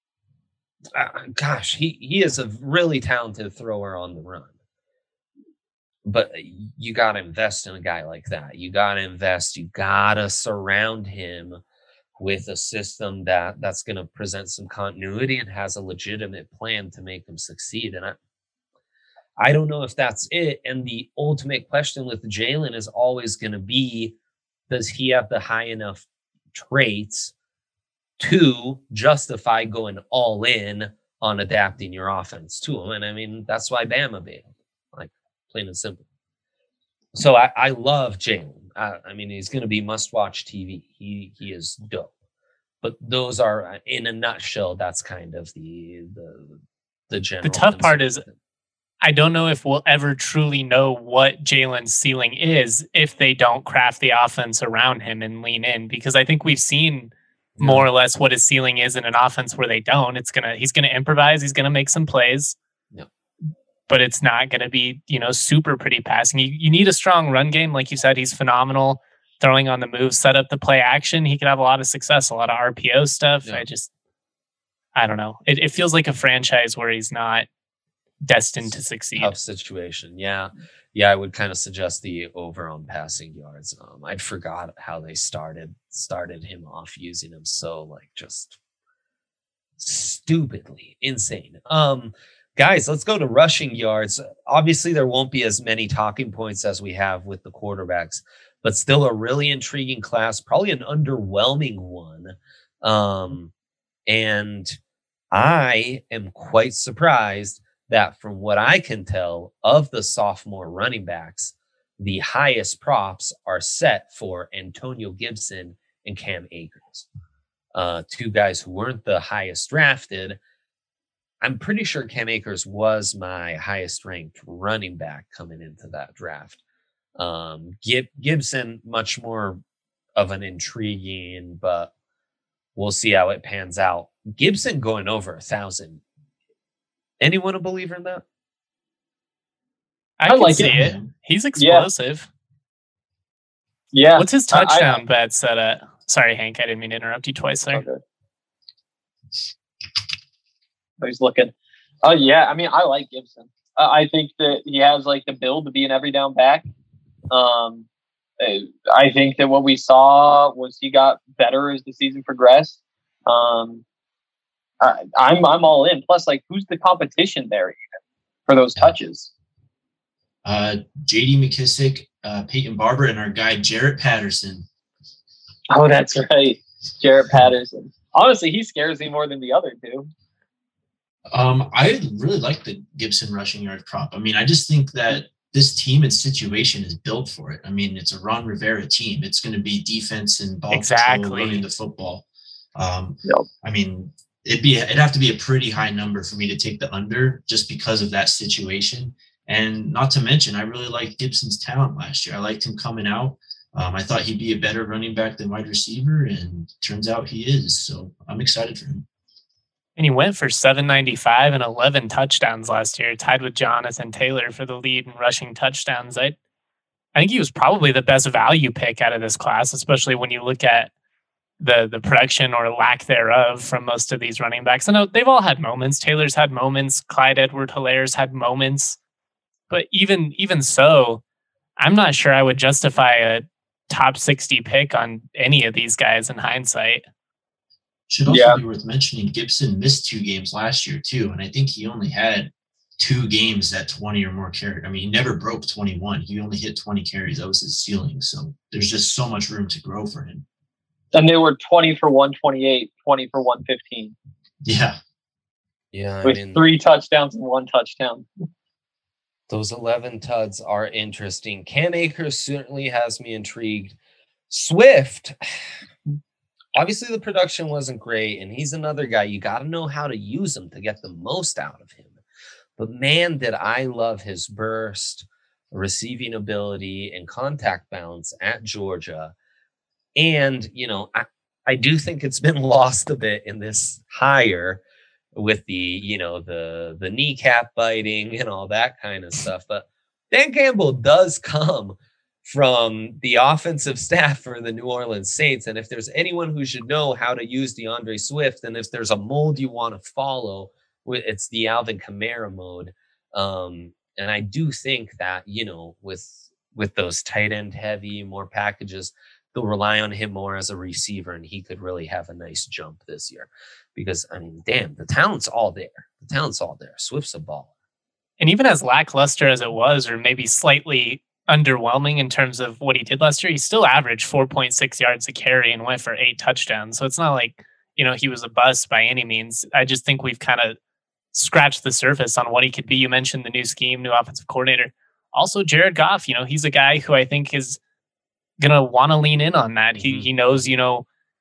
C: Uh, gosh, he, he is a really talented thrower on the run. But you got to invest in a guy like that. You got to invest. You got to surround him with a system that, that's going to present some continuity and has a legitimate plan to make him succeed. And I, I don't know if that's it. And the ultimate question with Jalen is always going to be, does he have the high enough traits to justify going all in on adapting your offense to him? And I mean, that's why Bama bailed, like plain and simple. So I, I love Jalen. I, I mean, he's going to be must-watch T V. He he is dope. but those are, in a nutshell, that's kind of the the the general.
B: The tough part is, I don't know if we'll ever truly know what Jalen's ceiling is if they don't craft the offense around him and lean in, because I think we've seen yeah. more or less what his ceiling is in an offense where they don't. It's gonna he's gonna improvise, he's gonna make some plays.
C: Yeah.
B: But it's not going to be, you know, super pretty passing. You, you need a strong run game. Like you said, he's phenomenal throwing on the move, set up the play action. He could have a lot of success, a lot of R P O stuff. Yeah. I just, I don't know. It, it feels like a franchise where he's not destined to succeed.
C: Tough situation. Yeah. Yeah. I would kind of suggest the over on passing yards. Um, I forgot how they started, started him off using him. So like just stupidly insane. Um, Guys, let's go to rushing yards. Obviously, there won't be as many talking points as we have with the quarterbacks, but still a really intriguing class, probably an underwhelming one. Um, and I am quite surprised that from what I can tell of the sophomore running backs, the highest props are set for Antonio Gibson and Cam Akers. Uh, two guys who weren't the highest drafted. I'm pretty sure Cam Akers was my highest ranked running back coming into that draft. Um, Gib- Gibson, much more of an intriguing, but we'll see how it pans out. Gibson going over a thousand. Anyone a believer in that?
B: I, I like see it. it. He's explosive.
A: Yeah. yeah.
B: What's his touchdown I, I, bet set at? Sorry, Hank, I didn't mean to interrupt you twice there. Okay.
A: He's looking. Oh, uh, yeah. I mean, I like Gibson. Uh, I think that he has like the build to be an every down back. Um, I think that what we saw was he got better as the season progressed. Um, I, I'm I'm all in. Plus, like, who's the competition there even for those touches?
D: Uh, J D McKissick, uh, Peyton Barber, and our guy Jarrett Patterson.
A: Oh, that's right, Jarrett Patterson. Honestly, he scares me more than the other two.
D: Um, I really like the Gibson rushing yard prop. I mean, I just think that this team and situation is built for it. I mean, it's a Ron Rivera team. It's going to be defense and ball
B: exactly.
D: control, running the football. Um,
A: yep.
D: I mean, it'd be it'd have to be a pretty high number for me to take the under just because of that situation. And not to mention, I really liked Gibson's talent last year. I liked him coming out. Um, I thought he'd be a better running back than wide receiver, and turns out he is. So I'm excited for him.
B: And he went for seven ninety-five and eleven touchdowns last year, tied with Jonathan Taylor for the lead in rushing touchdowns. I, I think he was probably the best value pick out of this class, especially when you look at the the production or lack thereof from most of these running backs. I know they've all had moments. Taylor's had moments. Clyde Edwards-Hilaire's had moments. But even even so, I'm not sure I would justify a top sixty pick on any of these guys in hindsight.
D: Should also yeah. be worth mentioning, Gibson missed two games last year too, and I think he only had two games at twenty or more carries. I mean, he never broke twenty-one. He only hit twenty carries. That was his ceiling. So there's just so much room to grow for him.
A: And they were twenty for one twenty-eight, twenty for one fifteen.
D: Yeah.
C: Yeah. I
A: With
C: mean,
A: three touchdowns and one touchdown.
C: Those eleven tuds are interesting. Cam Akers certainly has me intrigued. Swift, obviously the production wasn't great, and he's another guy. You got to know how to use him to get the most out of him. But man, did I love his burst, receiving ability, and contact balance at Georgia. And, you know, I, I do think it's been lost a bit in this hire with the, you know, the the kneecap biting and all that kind of stuff. But Dan Campbell does come from the offensive staff for the New Orleans Saints. And if there's anyone who should know how to use DeAndre Swift, and if there's a mold you want to follow, it's the Alvin Kamara mode. Um, and I do think that, you know, with with those tight end heavy, more packages, they'll rely on him more as a receiver, and he could really have a nice jump this year. Because, I mean, damn, the talent's all there. The talent's all there. Swift's a baller.
B: And even as lackluster as it was, or maybe slightly underwhelming in terms of what he did last year, he still averaged four point six yards a carry and went for eight touchdowns. So it's not like, you know, he was a bust by any means. I just think we've kind of scratched the surface on what he could be. You mentioned the new scheme, new offensive coordinator. Also, Jared Goff, you know, he's a guy who I think is going to want to lean in on that. He mm-hmm. he knows, you know,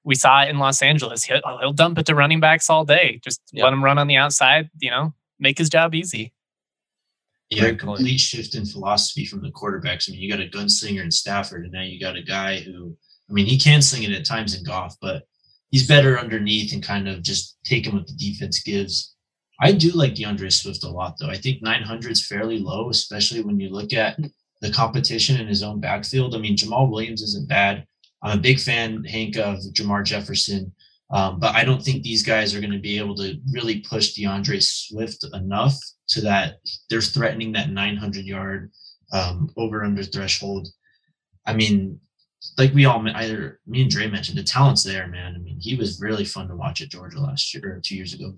B: we saw it in Los Angeles. He'll, he'll dump it to running backs all day. Just
C: yeah.
B: let him run on the outside, you know, make his job easy.
D: Yeah, Great complete point. Shift in philosophy from the quarterbacks. I mean, you got a gunslinger in Stafford, and now you got a guy who, I mean, he can sling it at times in Goff, but he's better underneath and kind of just taking what the defense gives. I do like DeAndre Swift a lot, though. I think nine hundred is fairly low, especially when you look at the competition in his own backfield. I mean, Jamal Williams isn't bad. I'm a big fan, Hank, of Jamar Jefferson, um, but I don't think these guys are going to be able to really push DeAndre Swift enough to that they're threatening that nine hundred yard um, over under threshold. I mean, like we all, either me and Dre mentioned, the talent's there, man. I mean, he was really fun to watch at Georgia last year or two years ago.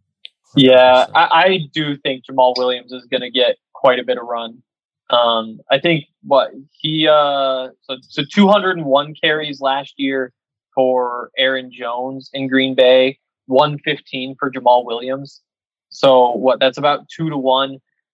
A: Yeah, I, I do think Jamal Williams is going to get quite a bit of run. Um, I think what he uh so so two hundred one carries last year for Aaron Jones in Green Bay, one fifteen for Jamal Williams. So what that's about two to one.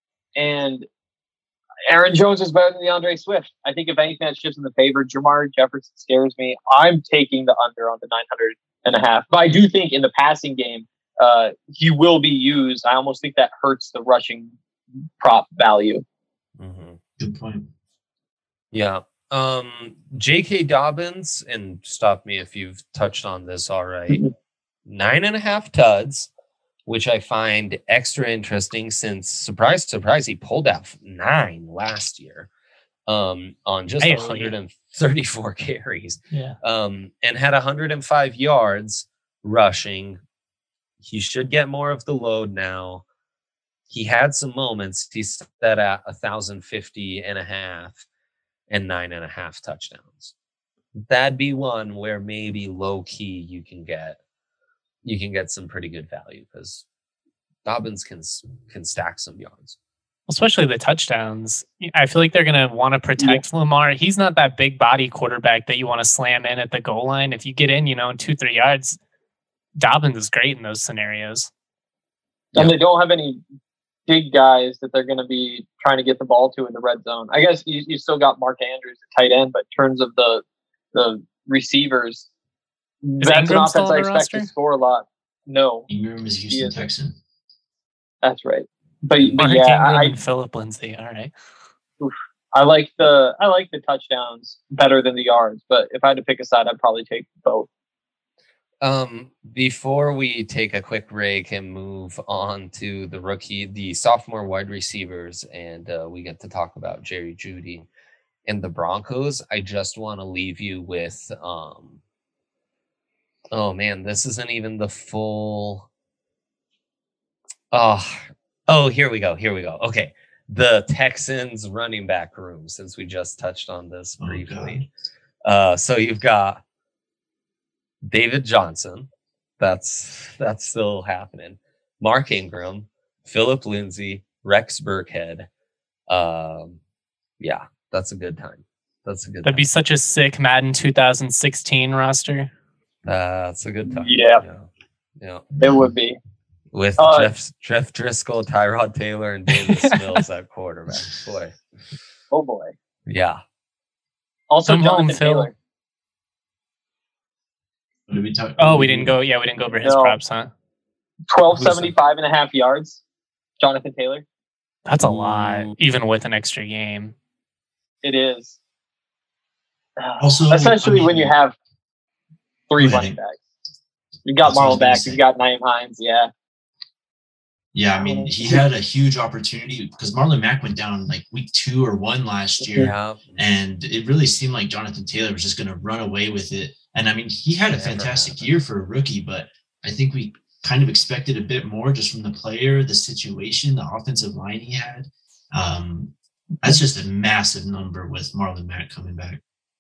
A: And Aaron Jones is better than DeAndre Swift. I think if anything that shifts in the favor, Jamar Jefferson scares me. I'm taking the under on the nine hundred and a half. But I do think in the passing game, uh, he will be used. I almost think that hurts the rushing prop value.
C: Mm-hmm.
D: Good point.
C: Yeah. Um, J K. Dobbins, and stop me if you've touched on this all right, mm-hmm. nine and a half tuds, which I find extra interesting since, surprise, surprise, he pulled out nine last year um, on just one hundred thirty-four carries
B: yeah.
C: um, and had one hundred five yards rushing. He should get more of the load now. He had some moments. He's set at one thousand fifty and a half and nine and a half touchdowns. That'd be one where maybe low key you can get you can get some pretty good value because Dobbins can can stack some yards.
B: Especially the touchdowns. I feel like they're going to want to protect yeah. Lamar. He's not that big body quarterback that you want to slam in at the goal line. If you get in, you know, in two, three yards, Dobbins is great in those scenarios.
A: And yeah. they don't have any big guys that they're going to be trying to get the ball to in the red zone. I guess you, you still got Mark Andrews at tight end, but in terms of the the receivers,
B: is
A: that's
B: Ingram
A: an offense I expect
B: roster?
A: to score a lot. No.
D: Ingram is Houston Texan.
A: That's right. But, but
B: Mark
A: yeah,
B: Ingram
A: I,
B: and Philip Lindsay. All right.
A: Oof, I like the I like the touchdowns better than the yards, but if I had to pick a side, I'd probably take both.
C: Um, before we take a quick break and move on to the rookie, the sophomore wide receivers, and uh, we get to talk about Jerry Jeudy and the Broncos, I just want to leave you with, um, oh man, this isn't even the full. Oh, oh, here we go. Here we go. Okay. The Texans running back room, since we just touched on this briefly. Oh, uh, so you've got David Johnson, that's that's still happening. Mark Ingram, Philip Lindsay, Rex Burkhead. Um, yeah, that's a good time. That's a good.
B: That'd
C: time.
B: be such a sick Madden two thousand sixteen roster.
C: Uh, that's a good time.
A: Yeah,
C: yeah, yeah.
A: It would be
C: with
A: uh,
C: Jeff Jeff Driscoll, Tyrod Taylor, and Davis Mills at quarterback. Boy,
A: oh boy,
C: yeah.
A: Also,
B: Come
A: Jonathan
B: home, Phil.
A: Taylor.
D: What did we talk?
B: Oh, we didn't go. Yeah, we didn't go over his
A: no.
B: props, huh?
A: twelve seventy-five and a half yards. Jonathan Taylor.
B: That's a lot, even with an extra game.
A: It is.
D: Also,
A: essentially,
D: I mean,
A: when you have three
D: ahead.
A: running backs, you got
D: That's what I was
A: Marlon
D: gonna
A: back,
D: say.
A: you got Naeem Hines. Yeah.
D: Yeah, I mean, he had a huge opportunity because Marlon Mack went down like week two or one last year,
C: Yeah.
D: and it really seemed like Jonathan Taylor was just going to run away with it. And I mean, he had a
C: Never
D: fantastic
C: happened.
D: year for a rookie, but I think we kind of expected a bit more just from the player, the situation, the offensive line he had. Um, that's just a massive number with Marlon Mack coming back.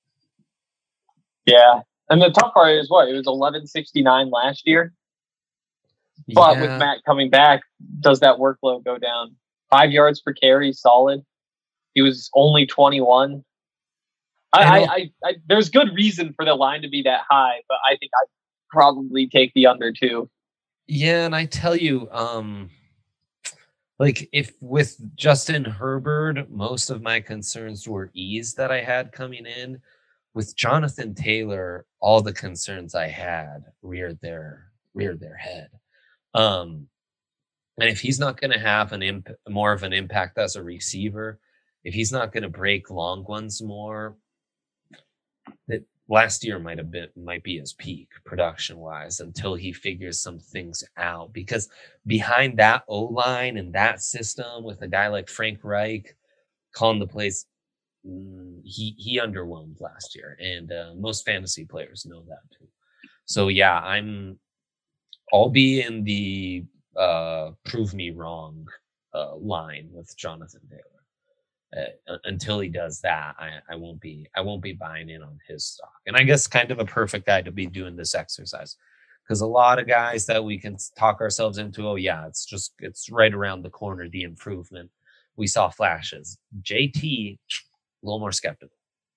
A: Yeah. And the tough part is what? It was eleven sixty-nine last year. But
C: Yeah.
A: with Matt coming back, does that workload go down? Five yards per carry, solid. He was only twenty-one. I, I, I, I, there's good reason for the line to be that high, but I think I'd probably take the under too.
C: Yeah, and I tell you, um, like if with Justin Herbert, most of my concerns were ease that I had coming in. with Jonathan Taylor, all the concerns I had reared their reared their head. Um, and if he's not going to have an imp- more of an impact as a receiver, if he's not going to break long ones more, that last year might have been might be his peak production wise until he figures some things out. Because behind that O line and that system with a guy like Frank Reich calling the plays, he he underwhelmed last year, and uh, most fantasy players know that too. So yeah, I'm I'll be in the uh, prove me wrong uh, line with Jonathan Taylor. Uh, until he does that, I, I won't be I won't be buying in on his stock. And I guess kind of a perfect guy to be doing this exercise, because a lot of guys that we can talk ourselves into, oh yeah, it's just it's right around the corner, the improvement. We saw flashes. J T, a little more skeptical.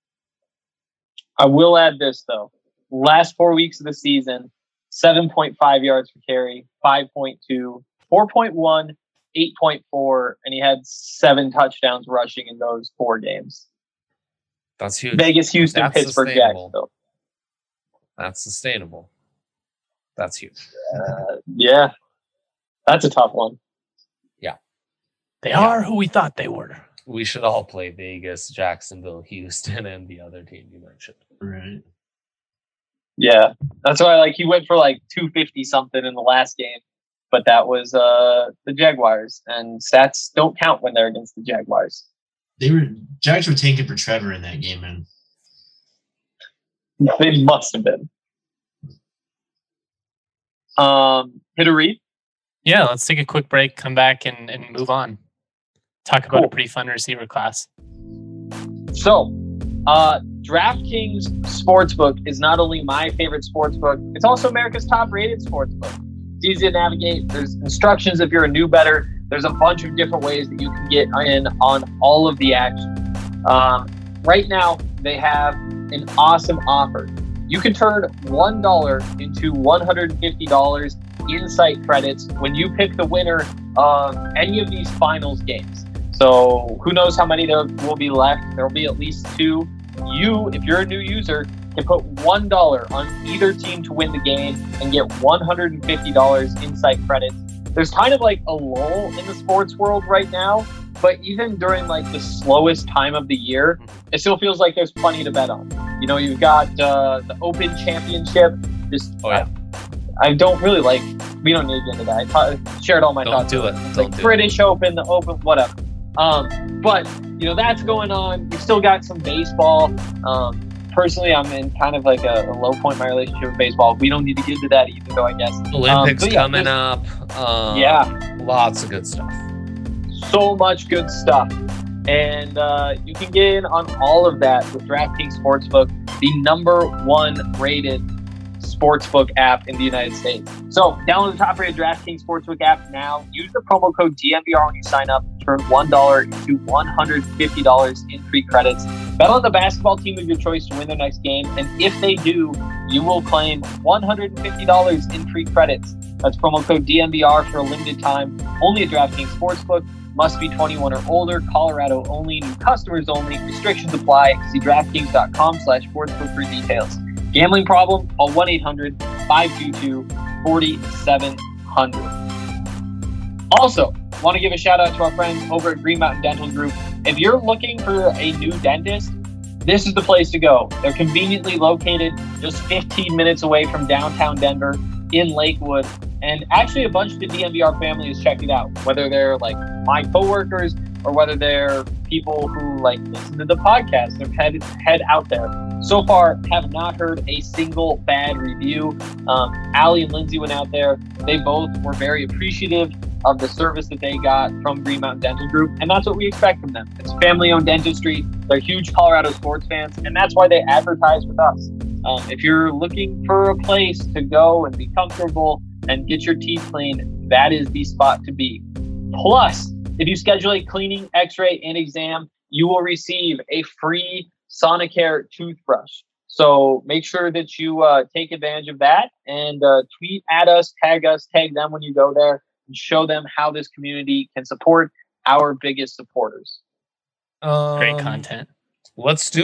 A: I will add this though. Last four weeks of the season, seven point five yards per carry, five point two, four point one, eight point four, and he had seven touchdowns rushing in those four games.
C: That's huge.
A: Vegas, Houston,
C: That's
A: Pittsburgh, Jacksonville.
C: That's sustainable. That's huge.
A: Uh, yeah. That's a tough one.
C: Yeah.
B: They
C: yeah.
B: are who we thought they were.
C: We should all play Vegas, Jacksonville, Houston, and the other team you mentioned.
D: Right.
A: Yeah. That's why like he went for like two fifty something in the last game. But that was uh, the Jaguars, and stats don't count when they're against the Jaguars.
D: They were Jags were tanking for Trevor in that game, man.
A: They must have been. Um, hit a read.
B: Yeah, let's take a quick break, come back, and, and move on. Talk about
A: Cool.
B: a pretty fun receiver class.
A: So, uh, DraftKings Sportsbook is not only my favorite sportsbook, it's also America's top-rated sportsbook. It's easy to navigate. There's instructions if you're a new bettor. There's a bunch of different ways that you can get in on all of the action. Um, right now, they have an awesome offer. You can turn one dollar into one hundred fifty dollars insight credits when you pick the winner of any of these finals games. So who knows how many there will be left. There will be at least two. You, if you're a new user, can put one dollar on either team to win the game and get one hundred fifty dollars insight credits. There's kind of like a lull in the sports world right now, but even during like the slowest time of the year, it still feels like there's plenty to bet on. You know, you've got uh, the Open Championship. Just,
C: Oh yeah.
A: I don't really like, we don't need to get into that. I ta- shared all my
C: Don't
A: thoughts.
C: do it.
A: It's
C: Don't
A: like
C: do
A: British Open, the Open, whatever. Um, but, you know, that's going on. We've still got some baseball. Um, personally, I'm in kind of like a, a low point in my relationship with baseball. We don't need to get into that either, though, I guess.
C: Olympics
A: Um, but yeah,
C: coming
A: there's-
C: up. Um,
A: Yeah.
C: Lots of good stuff.
A: So much good stuff. And uh, you can get in on all of that with DraftKings Sportsbook, the number one rated sportsbook app in the United States. So download the top rated DraftKings Sportsbook app now. Use the promo code D M V R when you sign up. Turn one dollar into one hundred fifty dollars in free credits. Bet on the basketball team of your choice to win their next game. And if they do, you will claim one hundred fifty dollars in free credits. That's promo code D M V R for a limited time. Only at DraftKings Sportsbook. Must be twenty-one or older. Colorado only. New customers only. Restrictions apply. See DraftKings.com slash sportsbook for details. Gambling problem? Call one eight hundred five two two four seven zero zero. Also, want to give a shout out to our friends over at Green Mountain Dental Group. If you're looking for a new dentist, this is the place to go. They're conveniently located just fifteen minutes away from downtown Denver in Lakewood. And actually a bunch of the D M V R family has checked it out, whether they're like my coworkers or whether they're people who like listen to the podcast. They've head, head out there. So far, have not heard a single bad review. Um, Allie and Lindsay went out there. They both were very appreciative of the service that they got from Green Mountain Dental Group. And that's what we expect from them. It's family-owned dentistry. They're huge Colorado sports fans, and that's why they advertise with us. Um, if you're looking for a place to go and be comfortable and get your teeth cleaned, that is the spot to be. Plus, if you schedule a cleaning, x-ray, and exam, you will receive a free Sonicare toothbrush. So make sure that you uh, take advantage of that and uh, tweet at us, tag us, tag them when you go there, and show them how this community can support our biggest supporters.
C: Um,
B: Great content.
C: Let's do it.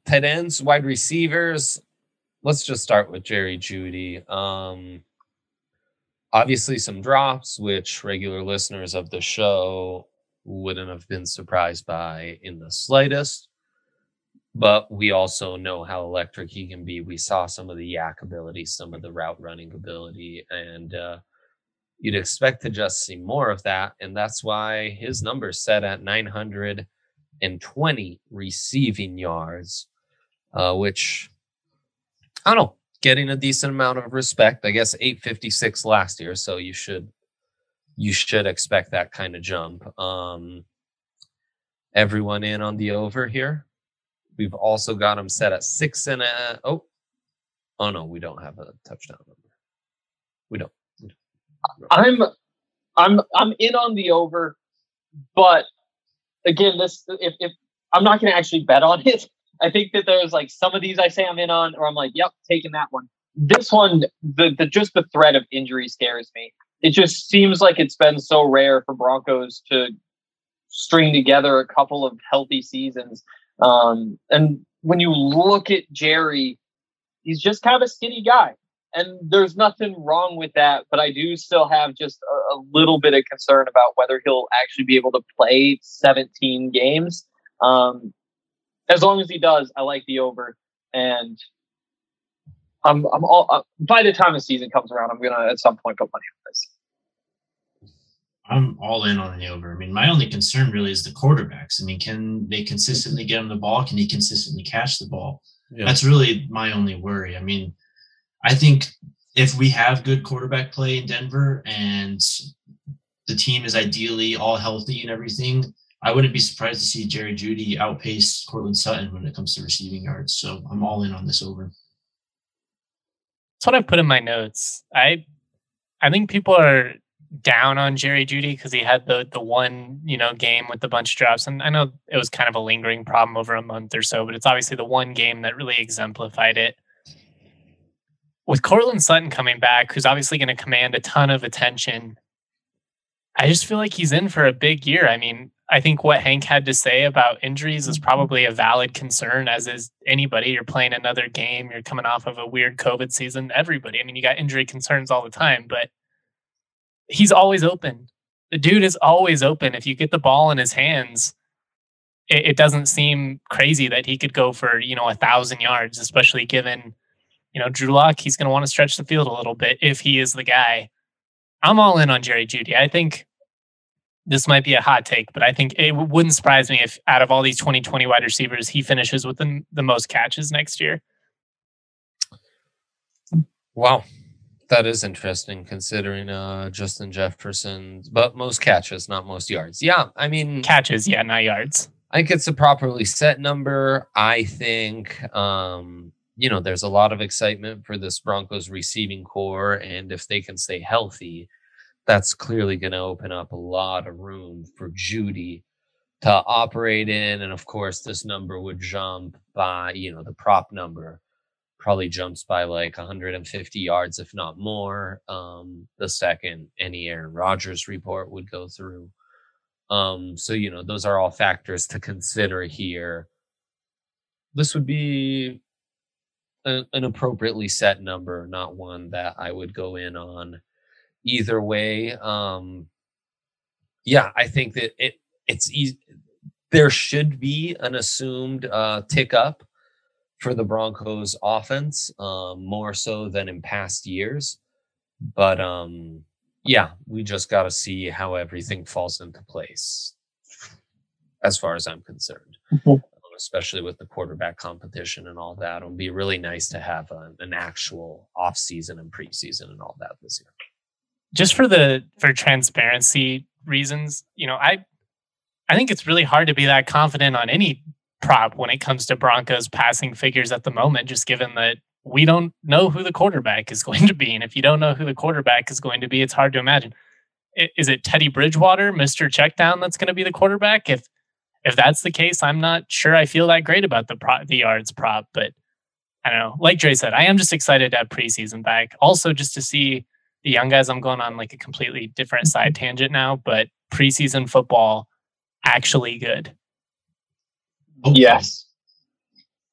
C: tight ends, wide receivers. Let's just start with Jerry Jeudy. Um, obviously, some drops, which regular listeners of the show wouldn't have been surprised by in the slightest. But we also know how electric he can be. We saw some of the yak ability, some of the route running ability, and uh, you'd expect to just see more of that. And that's why his number's set at nine hundred twenty receiving yards, uh, which, I don't know, getting a decent amount of respect. I guess eight fifty-six last year, so you should you should expect that kind of jump. Um, everyone in on the over here. We've also got him set at six and a. Oh, oh no, we don't have a touchdown number. We don't. We don't.
A: I'm, I'm, I'm in on the over, but again, this if if I'm not going to actually bet on it. I think that there's like some of these I say I'm in on, or I'm like, yep, taking that one. This one, the the just the threat of injury scares me. It just seems like it's been so rare for Broncos to string together a couple of healthy seasons. Um, and when you look at Jerry, he's just kind of a skinny guy, and there's nothing wrong with that. But I do still have just a, a little bit of concern about whether he'll actually be able to play seventeen games. Um, as long as he does, I like the over, and I'm I'm all uh, by the time the season comes around, I'm gonna at some point put money on this.
D: I'm all in on the over. I mean, my only concern really is the quarterbacks. I mean, can they consistently get him the ball? Can he consistently catch the ball? Yeah. That's really my only worry. I mean, I think if we have good quarterback play in Denver and the team is ideally all healthy and everything, I wouldn't be surprised to see Jerry Jeudy outpace Courtland Sutton when it comes to receiving yards. So I'm all in on this over.
B: That's what I put in my notes. I I think people are down on Jerry Jeudy because he had the the one, you know, game with the bunch of drops. And I know it was kind of a lingering problem over a month or so, but it's obviously the one game that really exemplified it. With Courtland Sutton coming back, who's obviously going to command a ton of attention, I just feel like he's in for a big year. I mean, I think what Hank had to say about injuries is probably a valid concern, as is anybody. You're playing another game. You're coming off of a weird COVID season. Everybody. I mean, you got injury concerns all the time, but he's always open. The dude is always open. If you get the ball in his hands, it, it doesn't seem crazy that he could go for, you know, a thousand yards, especially given, you know, Drew Lock, he's going to want to stretch the field a little bit if he is the guy. I'm all in on Jerry Jeudy. I think this might be a hot take, but I think it wouldn't surprise me if out of all these twenty twenty wide receivers, he finishes with the, the most catches next year.
C: Wow. That is interesting considering uh, Justin Jefferson's, but most catches, not most yards. Yeah, I mean...
B: Catches, yeah, not yards.
C: I think it's a properly set number. I think, um, you know, there's a lot of excitement for this Broncos receiving core, and if they can stay healthy, that's clearly going to open up a lot of room for Jeudy to operate in. And, of course, this number would jump by, you know, the prop number probably jumps by like one hundred fifty yards, if not more. Um, the second any Aaron Rodgers report would go through. Um, so, you know, those are all factors to consider here. This would be a, an appropriately set number, not one that I would go in on either way. Um, yeah, I think that it it's easy. There should be an assumed uh, tick up for the Broncos offense, um, more so than in past years. But um, yeah, we just got to see how everything falls into place as far as I'm concerned, mm-hmm. um, especially with the quarterback competition and all that. It'll be really nice to have a, an actual off season and preseason and all that this year.
B: Just for the, for transparency reasons, you know, I, I think it's really hard to be that confident on any prop when it comes to Broncos passing figures at the moment, just given that we don't know who the quarterback is going to be. And if you don't know who the quarterback is going to be, it's hard to imagine. Is it Teddy Bridgewater, Mister Checkdown, that's going to be the quarterback? If if that's the case, I'm not sure I feel that great about the pro, the yards prop, but I don't know. Like Dre said, I am just excited to have preseason back. Also, just to see the young guys. I'm going on like a completely different side tangent now, but preseason football actually good.
A: Yes.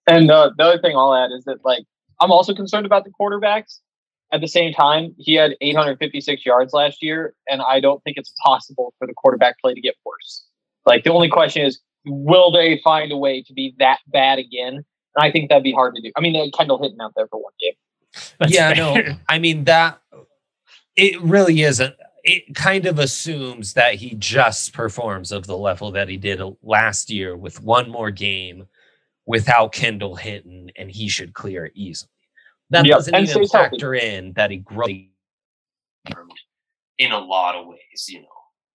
A: And uh, the other thing I'll add is that, like, I'm also concerned about the quarterbacks. At the same time, he had eight hundred fifty-six yards last year, and I don't think it's possible for the quarterback play to get worse. Like, the only question is, will they find a way to be that bad again? And I think that'd be hard to do. I mean, they had Kendall Hinton out there for one game.
C: That's yeah, fair. no, I mean, that it really isn't. It kind of assumes that he just performs of the level that he did last year with one more game without Kendall Hinton, and he should clear it easily. That yep. doesn't and even factor healthy. in that he grows in a lot of ways, you know.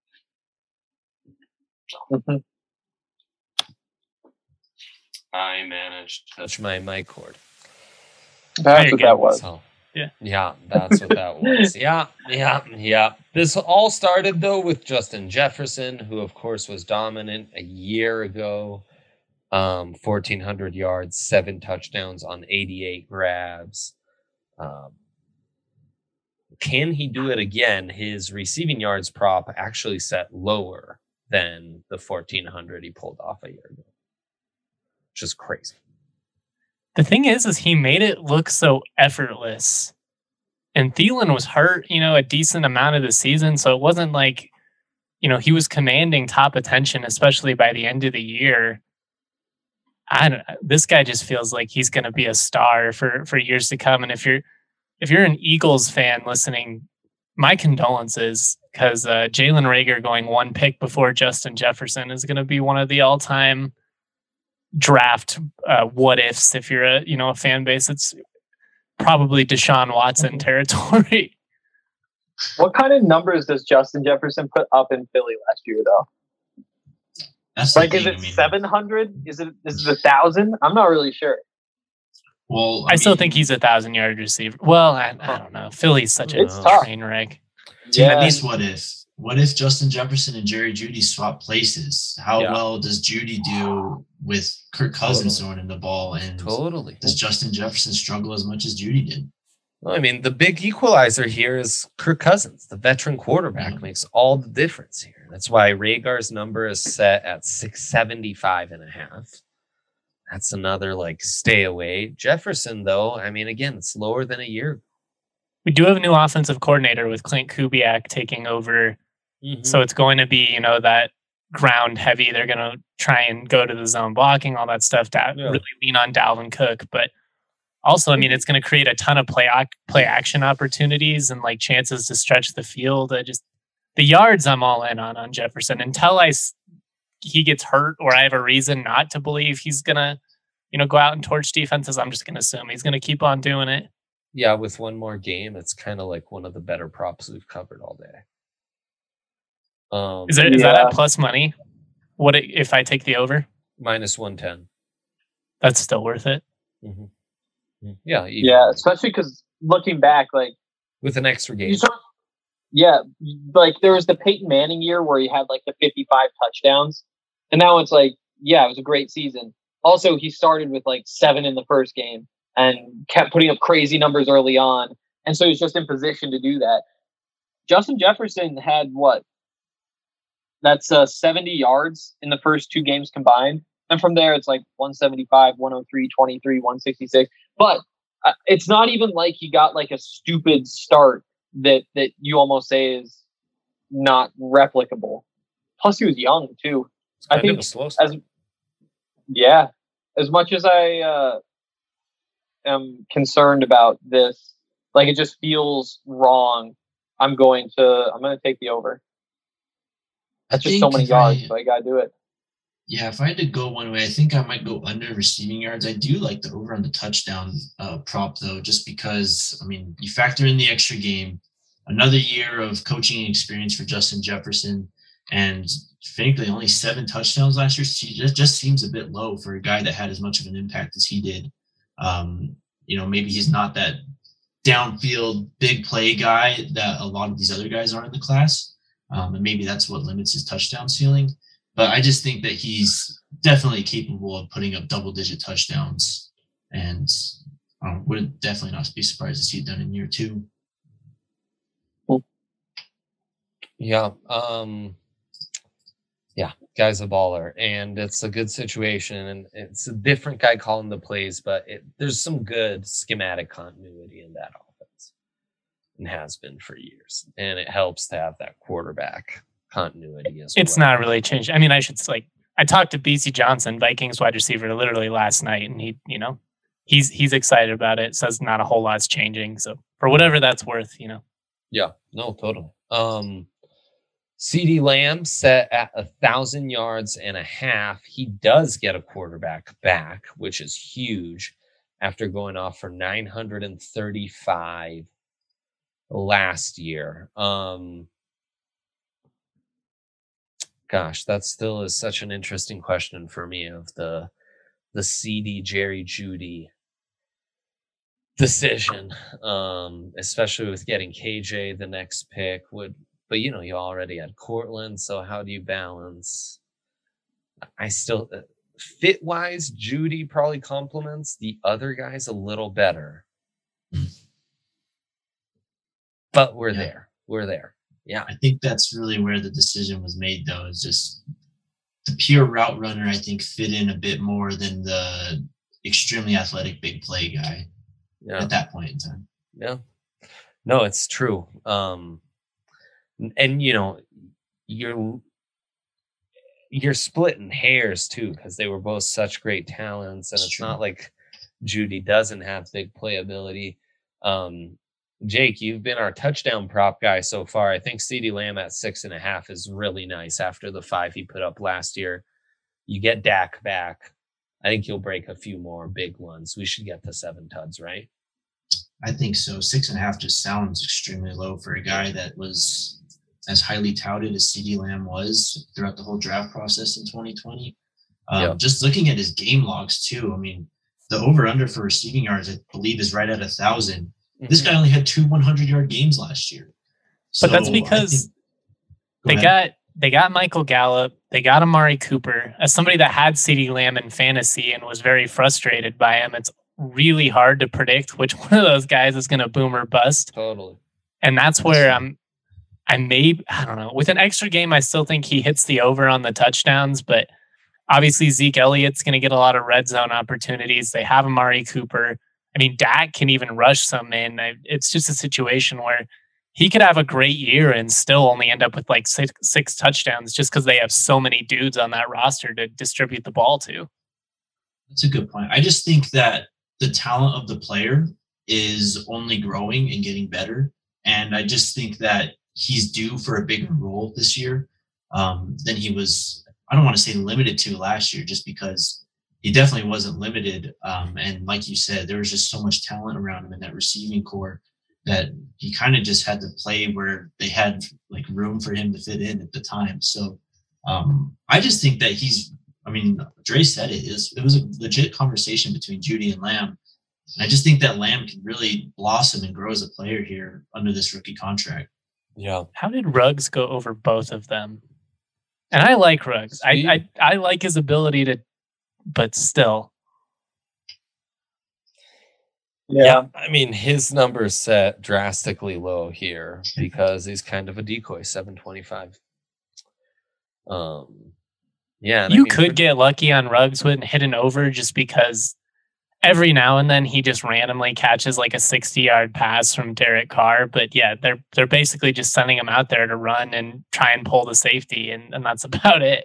C: So. Mm-hmm. I managed to touch my mic cord.
A: That's what that was.
C: So, yeah. Yeah, that's what that was. Yeah, yeah, yeah. This all started, though, with Justin Jefferson, who, of course, was dominant a year ago. Um, fourteen hundred yards, seven touchdowns on eighty-eight grabs. Um, can he do it again? His receiving yards prop actually set lower than the fourteen hundred he pulled off a year ago. Which is crazy.
B: The thing is, is he made it look so effortless. And Thielen was hurt, you know, a decent amount of the season. So it wasn't like, you know, he was commanding top attention, especially by the end of the year. I don't know. This guy just feels like he's going to be a star for, for years to come. And if you're if you're an Eagles fan listening, my condolences, because uh, Jalen Reagor going one pick before Justin Jefferson is going to be one of the all time draft uh, what ifs. If you're a you know a fan base, it's probably Deshaun Watson territory.
A: What kind of numbers does Justin Jefferson put up in Philly last year, though?
D: That's
A: like, is it seven hundred? Is it is it a thousand? I'm not really sure.
D: Well,
B: I, I mean, still think he's a thousand yard receiver. Well, I, I don't know. Philly's such a train wreck.
D: Yeah. At least what if? What if Justin Jefferson and Jerry Jeudy swap places? How yeah. well does Jeudy do with Kirk Cousins totally. throwing in the ball? And
C: totally.
D: Does Justin Jefferson struggle as much as Jeudy did?
C: Well, I mean, the big equalizer here is Kirk Cousins. The veteran quarterback yeah. makes all the difference here. That's why Reagor's number is set at six seventy-five and a half. That's another, like, stay away. Jefferson, though, I mean, again, it's lower than a year ago.
B: We do have a new offensive coordinator with Clint Kubiak taking over. Mm-hmm. So it's going to be, you know, that ground heavy. They're going to try and go to the zone blocking, all that stuff, to yeah. really lean on Dalvin Cook. But also, I mean, it's going to create a ton of play play action opportunities and like chances to stretch the field. I just the yards I'm all in on on Jefferson until I he gets hurt or I have a reason not to believe he's going to, you know, go out and torch defenses. I'm just going to assume he's going to keep on doing it.
C: Yeah, with one more game, it's kind of like one of the better props we've covered all day. Um,
B: is, there, is yeah. that at plus money? What it, if I take the over?
C: Minus one ten.
B: That's still worth it.
C: Mm-hmm. Yeah.
A: Yeah, especially because looking back, like
C: with an extra game.
A: Saw, yeah, like there was the Peyton Manning year where he had like the fifty-five touchdowns, and now it's like, yeah, it was a great season. Also, he started with like seven in the first game and kept putting up crazy numbers early on, and so he's just in position to do that. Justin Jefferson had what? That's uh, seventy yards in the first two games combined. And from there, it's like one seventy-five, one oh three, twenty-three, one sixty-six. But uh, it's not even like he got like a stupid start that, that you almost say is not replicable. Plus, he was young, too.
C: It's kind
A: I think
C: of a slow start.
A: As, yeah. As much as I uh, am concerned about this, like it just feels wrong, I'm going to I'm going to take the over. That's just so many yards, I, so I gotta do it.
D: Yeah, if I had to go one way, I think I might go under receiving yards. I do like the over on the touchdown uh, prop, though, just because, I mean, you factor in the extra game, another year of coaching experience for Justin Jefferson, and frankly, only seven touchdowns last year. Just, just seems a bit low for a guy that had as much of an impact as he did. Um, you know, maybe he's not that downfield big play guy that a lot of these other guys are in the class. Um, and maybe that's what limits his touchdown ceiling. But I just think that he's definitely capable of putting up double-digit touchdowns. And um, would definitely not be surprised to see it done in year two.
C: Yeah. Um, yeah. Guy's a baller, and it's a good situation, and it's a different guy calling the plays, but it, there's some good schematic continuity in that offense, and has been for years, and it helps to have that quarterback continuity as well.
B: It's not really changed. I mean, I should like I talked to B C Johnson, Vikings wide receiver, literally last night, and he, you know, he's he's excited about it. Says not a whole lot's changing. So for whatever that's worth, you know.
C: Yeah, no, totally. Um, CeeDee Lamb set at a thousand yards and a half. He does get a quarterback back, which is huge after going off for nine hundred thirty-five last year. Um, gosh, that still is such an interesting question for me of the the C D Jerry Jeudy decision, um, especially with getting K J the next pick. Would but you know you already had Cortland, so how do you balance? I still uh, fit wise, Jeudy probably complements the other guys a little better, but we're yeah. there. We're there. Yeah,
D: I think that's really where the decision was made, though. Is just the pure route runner. I think fit in a bit more than the extremely athletic big play guy. Yeah. At that point in time.
C: Yeah. No, it's true. Um, and you know, you're you're splitting hairs too, because they were both such great talents, and it's, it's not like Jeudy doesn't have big playability. Um, Jake, you've been our touchdown prop guy so far. I think CeeDee Lamb at six and a half is really nice after the five he put up last year. You get Dak back. I think you'll break a few more big ones. We should get to seven tuds, right?
D: I think so. Six and a half just sounds extremely low for a guy that was as highly touted as CeeDee Lamb was throughout the whole draft process in twenty twenty. Um, yep. Just looking at his game logs too. I mean, the over-under for receiving yards, I believe, is right at a thousand. Mm-hmm. This guy only had two hundred-yard games last year.
B: So but that's because think, go they ahead. got they got Michael Gallup, they got Amari Cooper. As somebody that had CeeDee Lamb in fantasy and was very frustrated by him, it's really hard to predict which one of those guys is going to boom or bust.
C: Totally.
B: And that's where I'm, I may, I don't know, with an extra game, I still think he hits the over on the touchdowns, but obviously Zeke Elliott's going to get a lot of red zone opportunities. They have Amari Cooper. I mean, Dak can even rush some in. It's just a situation where he could have a great year and still only end up with like six, six touchdowns just because they have so many dudes on that roster to distribute the ball to.
D: That's a good point. I just think that the talent of the player is only growing and getting better. And I just think that he's due for a bigger role this year um, than he was, I don't want to say limited to last year, just because he definitely wasn't limited. Um, and like you said, there was just so much talent around him in that receiving core that he kind of just had to play where they had like room for him to fit in at the time. So um, I just think that he's, I mean, Dre said it is. It was a legit conversation between Jeudy and Lamb. And I just think that Lamb can really blossom and grow as a player here under this rookie contract.
C: Yeah.
B: How did Ruggs go over both of them? And I like Ruggs. I, I I like his ability to, but still.
C: Yeah. yeah. I mean, his numbers set drastically low here because he's kind of a decoy, seven twenty-five. Um. Yeah,
B: you I mean, could get lucky on Ruggs with hitting over just because every now and then he just randomly catches like a sixty-yard pass from Derek Carr. But yeah, they're they're basically just sending him out there to run and try and pull the safety, and, and that's about it.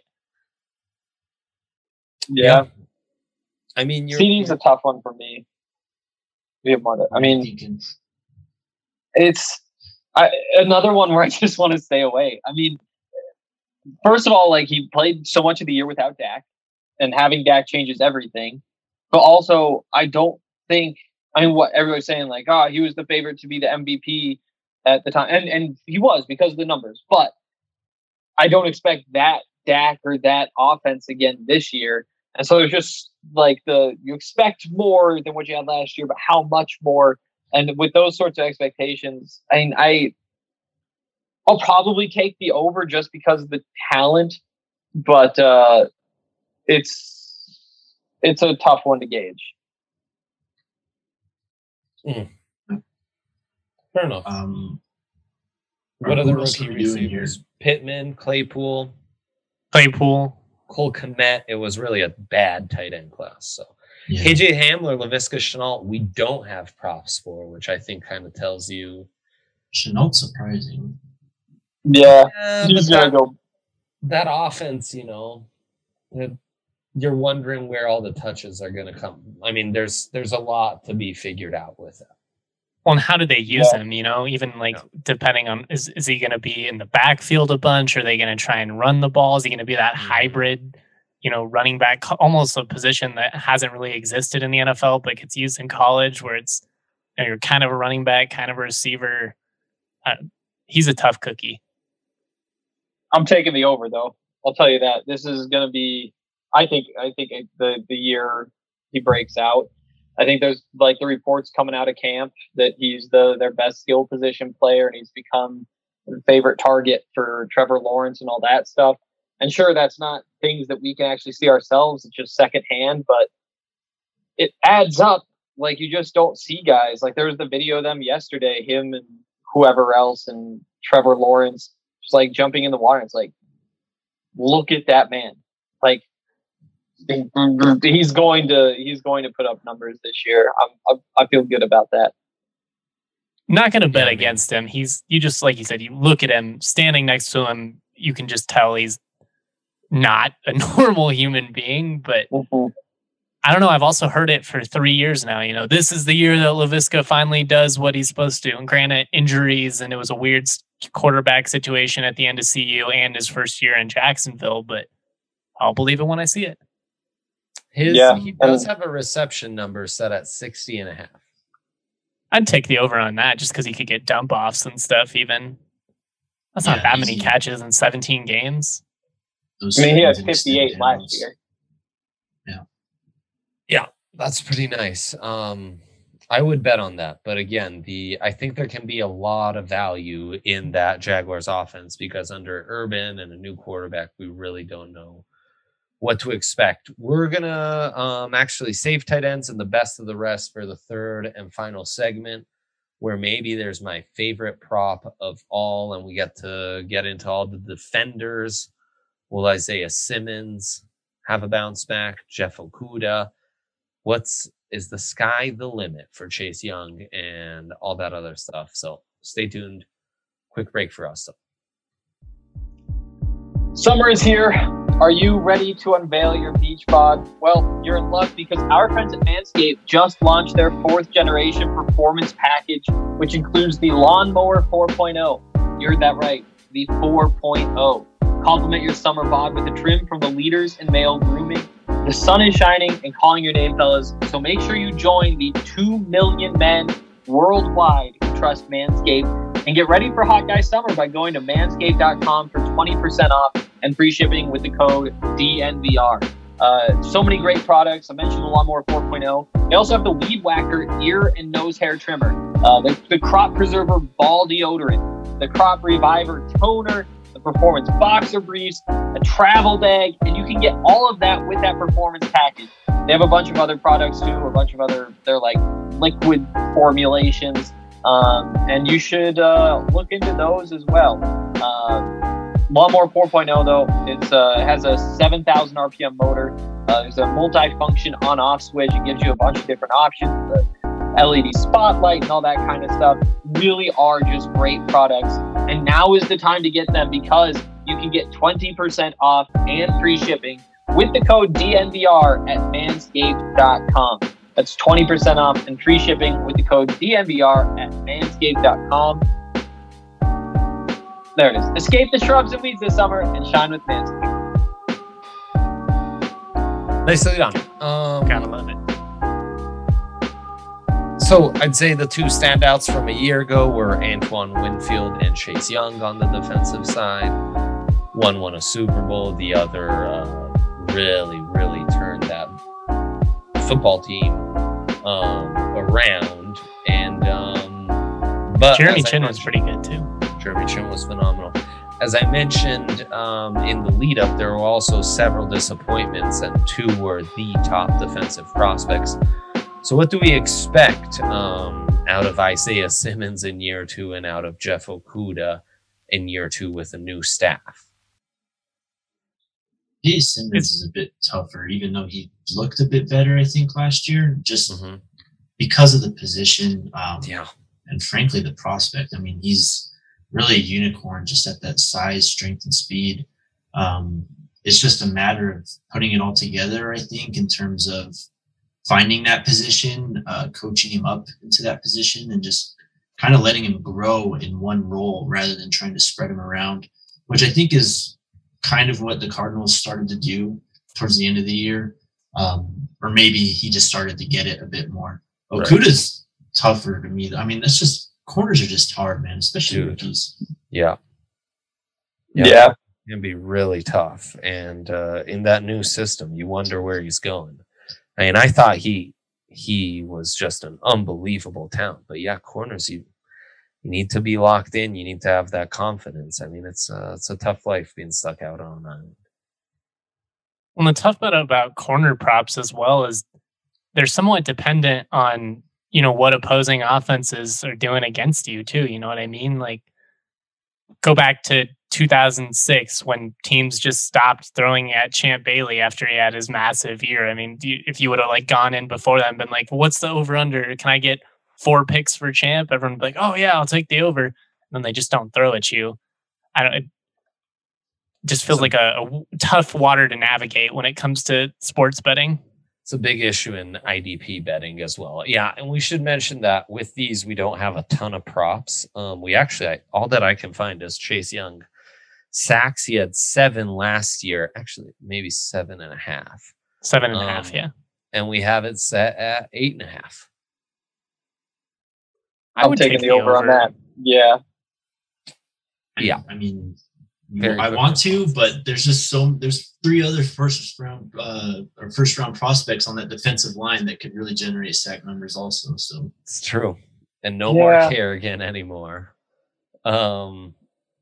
A: Yeah, yeah.
C: I mean,
A: CeeDee's a tough one for me. We have more. To, I mean, it's I, another one where I just want to stay away. I mean. First of all, like he played so much of the year without Dak, and having Dak changes everything. But also, I don't think I mean what everybody's saying, like, oh, he was the favorite to be the M V P at the time, and and he was because of the numbers. But I don't expect that Dak or that offense again this year. And so it's just like the you expect more than what you had last year, but how much more? And with those sorts of expectations, I mean, I. I'll probably take the over just because of the talent, but uh, it's it's a tough one to gauge.
C: Mm. Fair enough.
D: Um,
C: what other rookie receivers? Pittman, Claypool.
B: Claypool.
C: Cole Kmet. It was really a bad tight end class. So
D: Yeah.
C: K J Hamler, Laviska Shenault, we don't have props for, which I think kind of tells you.
D: Shenault's surprising.
A: Yeah,
C: Yeah,
A: he's
C: but
A: gonna
C: that,
A: go.
C: that offense, you know, it- you're wondering where all the touches are going to come. I mean, there's there's a lot to be figured out with it.
B: Well, and how do they use
A: Yeah.
B: him? You know, even like
C: Yeah.
B: depending on is is he going to be in the backfield a bunch? Are they going to try and run the ball? Is he going to be that
C: Mhm.
B: hybrid, you know, running back, almost a position that hasn't really existed in the N F L, but gets used in college, where it's you know, you're kind of a running back, kind of a receiver. Uh, he's a tough cookie.
A: I'm taking the over though. I'll tell you that this is gonna be. I think. I think the the year he breaks out. I think there's like the reports coming out of camp that he's the their best skill position player and he's become the favorite target for Trevor Lawrence and all that stuff. And sure, that's not things that we can actually see ourselves. It's just secondhand, but it adds up. Like you just don't see guys. Like there was the video of them yesterday, him and whoever else and Trevor Lawrence just like jumping in the water. It's like, look at that man. Like he's going to he's going to put up numbers this year. I'm, I'm I feel good about that.
B: Not going to bet
C: Yeah, man.
B: against him. He's you just like you said. You look at him standing next to him. You can just tell he's not a normal human being. But
A: Mm-hmm.
B: I don't know. I've also heard it for three years now. You know, this is the year that Laviska finally does what he's supposed to. And granted, injuries and it was a weird quarterback situation at the end of C U and his first year in Jacksonville. But I'll believe it when I see it.
C: His
A: Yeah,
C: he does
A: and-
C: have a reception number set at sixty and a half.
B: I'd take the over on that just because he could get dump offs and stuff. Even that's not
D: Yeah,
B: that many
D: easy.
B: catches in seventeen games.
D: Those
A: I mean, he had
D: seconds and
A: fifty-eight
D: extended
A: last
D: intervals.
A: year.
C: That's pretty nice. Um, I would bet on that, but again, the I think there can be a lot of value in that Jaguars offense because under Urban and a new quarterback, we really don't know what to expect. We're gonna um, actually save tight ends and the best of the rest for the third and final segment, where maybe there's my favorite prop of all, and we get to get into all the defenders. Will Isaiah Simmons have a bounce back? Jeff Okudah. What's is the sky the limit for Chase Young and all that other stuff? So stay tuned. Quick break for us.
A: Summer is here. Are you ready to unveil your beach bod? Well, you're in luck because our friends at Manscaped just launched their fourth generation performance package, which includes the Lawnmower four point oh. You heard that right, the four point oh. Complement your summer bod with a trim from the leaders in male grooming. The sun is shining and calling your name, fellas, so make sure you join the two million men worldwide who trust Manscaped and get ready for Hot Guy Summer by going to manscaped dot com for twenty percent off and free shipping with the code D N V R. Uh, so many great products. I mentioned the Lawnmower four point oh. They also have the Weed Whacker ear and nose hair trimmer, uh, the, the Crop Preserver ball deodorant, the Crop Reviver toner, the Performance Boxer Briefs, a travel bag, and you can get all of that with that performance package. They have a bunch of other products too, a bunch of other, they're like liquid formulations, um, and you should uh, look into those as well. Uh, Lawnmower four point oh though, it's, uh, it has a seven thousand R P M motor. Uh, there's a multi-function on-off switch. It gives you a bunch of different options. The L E D spotlight and all that kind of stuff really are just great products. And now is the time to get them because you can get twenty percent off and free shipping with the code D N V R at manscaped dot com. That's twenty percent off and free shipping with the code D N V R at manscaped dot com. There it is. Escape the shrubs and weeds this summer and shine with Manscaped.
C: Nicely done. Um,
B: Gotta love it.
C: So I'd say the two standouts from a year ago were Antoine Winfield and Chase Young on the defensive side. One won a Super Bowl. The other uh, really, really turned that football team um, around. And um, but
B: Jeremy
C: as I
B: Chin was
C: mentioned-
B: pretty good too.
C: Jeremy Chin was phenomenal. As I mentioned um, in the lead up, there were also several disappointments, and two were the top defensive prospects. So what do we expect um, out of Isaiah Simmons in year two and out of Jeff Okudah in year two with a new staff?
D: Chase Simmons is a bit tougher, even though he looked a bit better, I think, last year, just mm-hmm. because of the position. Um,
C: yeah.
D: And frankly, the prospect. I mean, he's really a unicorn just at that size, strength, and speed. Um, it's just a matter of putting it all together, I think, in terms of finding that position, uh, coaching him up into that position, and just kind of letting him grow in one role rather than trying to spread him around, which I think is kind of what the Cardinals started to do towards the end of the year. Um, or maybe he just started to get it a bit more. Okuda's right. tougher to me. I mean, that's just, corners are just hard, man, especially Dude. rookies.
C: Yeah.
A: Yeah. yeah.
C: It can be really tough. And uh, in that new system, you wonder where he's going. I mean, I thought he he was just an unbelievable talent. But yeah, corners, you you need to be locked in. You need to have that confidence. I mean, it's uh, it's a tough life being stuck out on that.
B: Well, the tough part about corner props as well is they're somewhat dependent on, you know, what opposing offenses are doing against you too. You know what I mean? Like, go back to two thousand six when teams just stopped throwing at Champ Bailey after he had his massive year. I mean, do you, if you would have like gone in before that and been like, well, what's the over under? Can I get four picks for Champ? Everyone would be like, oh yeah, I'll take the over. And then they just don't throw at you. I don't, it just feels so, like a, a tough water to navigate when it comes to sports betting.
C: It's a big issue in I D P betting as well. Yeah, and we should mention that with these, we don't have a ton of props. Um, we actually, I, all that I can find is Chase Young. Sacks, he had seven last year. Actually, maybe seven and a half.
B: Seven and a
C: um,
B: half, yeah.
C: And we have it set at eight and a half.
A: I would take the, the over, over on that. Yeah.
C: Yeah.
D: I mean, Very I want to, but there's just so there's three other first round uh, or first round prospects on that defensive line that could really generate sack numbers also. So
C: it's true, and no
A: yeah.
C: more Kerrigan anymore. Um,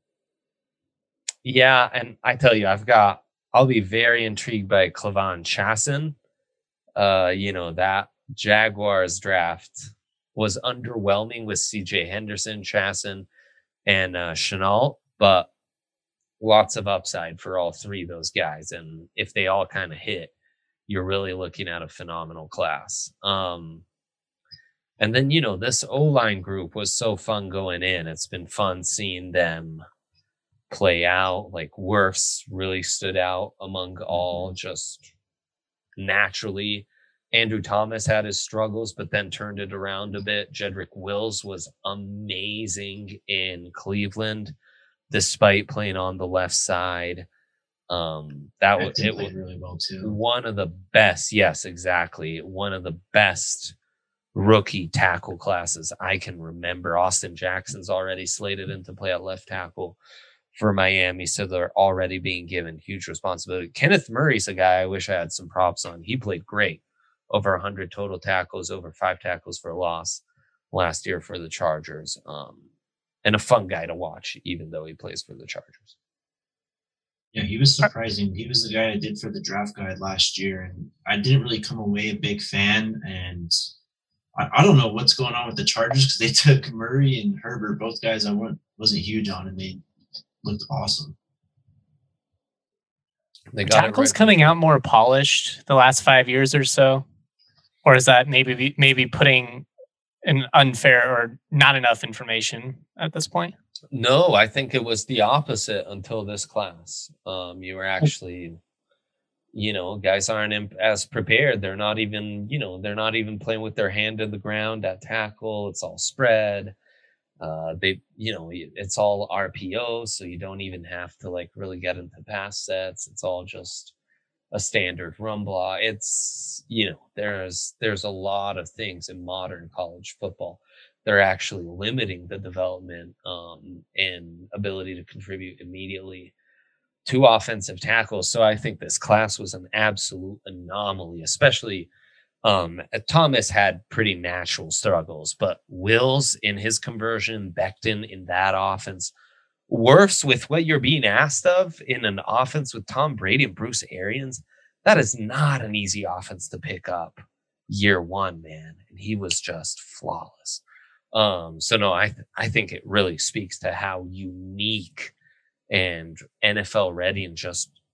C: yeah, and I tell you, I've got. I'll be very intrigued by Clavon Chasen. Uh, you know that Jaguars draft was underwhelming with C J Henderson, Chasen, and uh, Chenault, but lots of upside for all three of those guys. And if they all kind of hit, you're really looking at a phenomenal class. Um, and then, you know, this O-line group was so fun going in. It's been fun seeing them play out. Like Wirfs really stood out among all just naturally. Andrew Thomas had his struggles, but then turned it around a bit. Jedrick Wills was amazing in Cleveland, despite playing on the left side. Um, that was it was
D: really well too.
C: One of the best, yes, exactly. One of the best rookie tackle classes I can remember. Austin Jackson's already slated in to play at left tackle for Miami, so they're already being given huge responsibility. Kenneth Murray's a guy I wish I had some props on. He played great. Over one hundred total tackles, over five tackles for a loss last year for the Chargers. Um, And a fun guy to watch, even though he plays for the Chargers.
D: Yeah, he was surprising. He was the guy I did for the draft guide last year, and I didn't really come away a big fan. And I, I don't know what's going on with the Chargers because they took Murray and Herbert, both guys I wasn't, wasn't huge on, and they looked awesome.
B: They got tackles right coming out more polished the last five years or so, or is that maybe maybe putting an unfair or not enough information at this point?
C: No, I think it was the opposite until this class. Um, you were actually, you know, guys aren't imp- as prepared. They're not even, you know, they're not even playing with their hand to the ground at tackle. It's all spread. Uh, they, you know, it's all R P O, so you don't even have to like really get into pass sets. It's all just a standard run block. It's, you know, there's there's a lot of things in modern college football. They're actually limiting the development um, and ability to contribute immediately to offensive tackles. So I think this class was an absolute anomaly, especially um, Thomas had pretty natural struggles, but Wills in his conversion, Becton in that offense, worse with what you're being asked of in an offense with Tom Brady and Bruce Arians. That is not an easy offense to pick up year one, man. And he was just flawless. Um, so no, I, th- I think it really speaks to how unique and N F L ready and just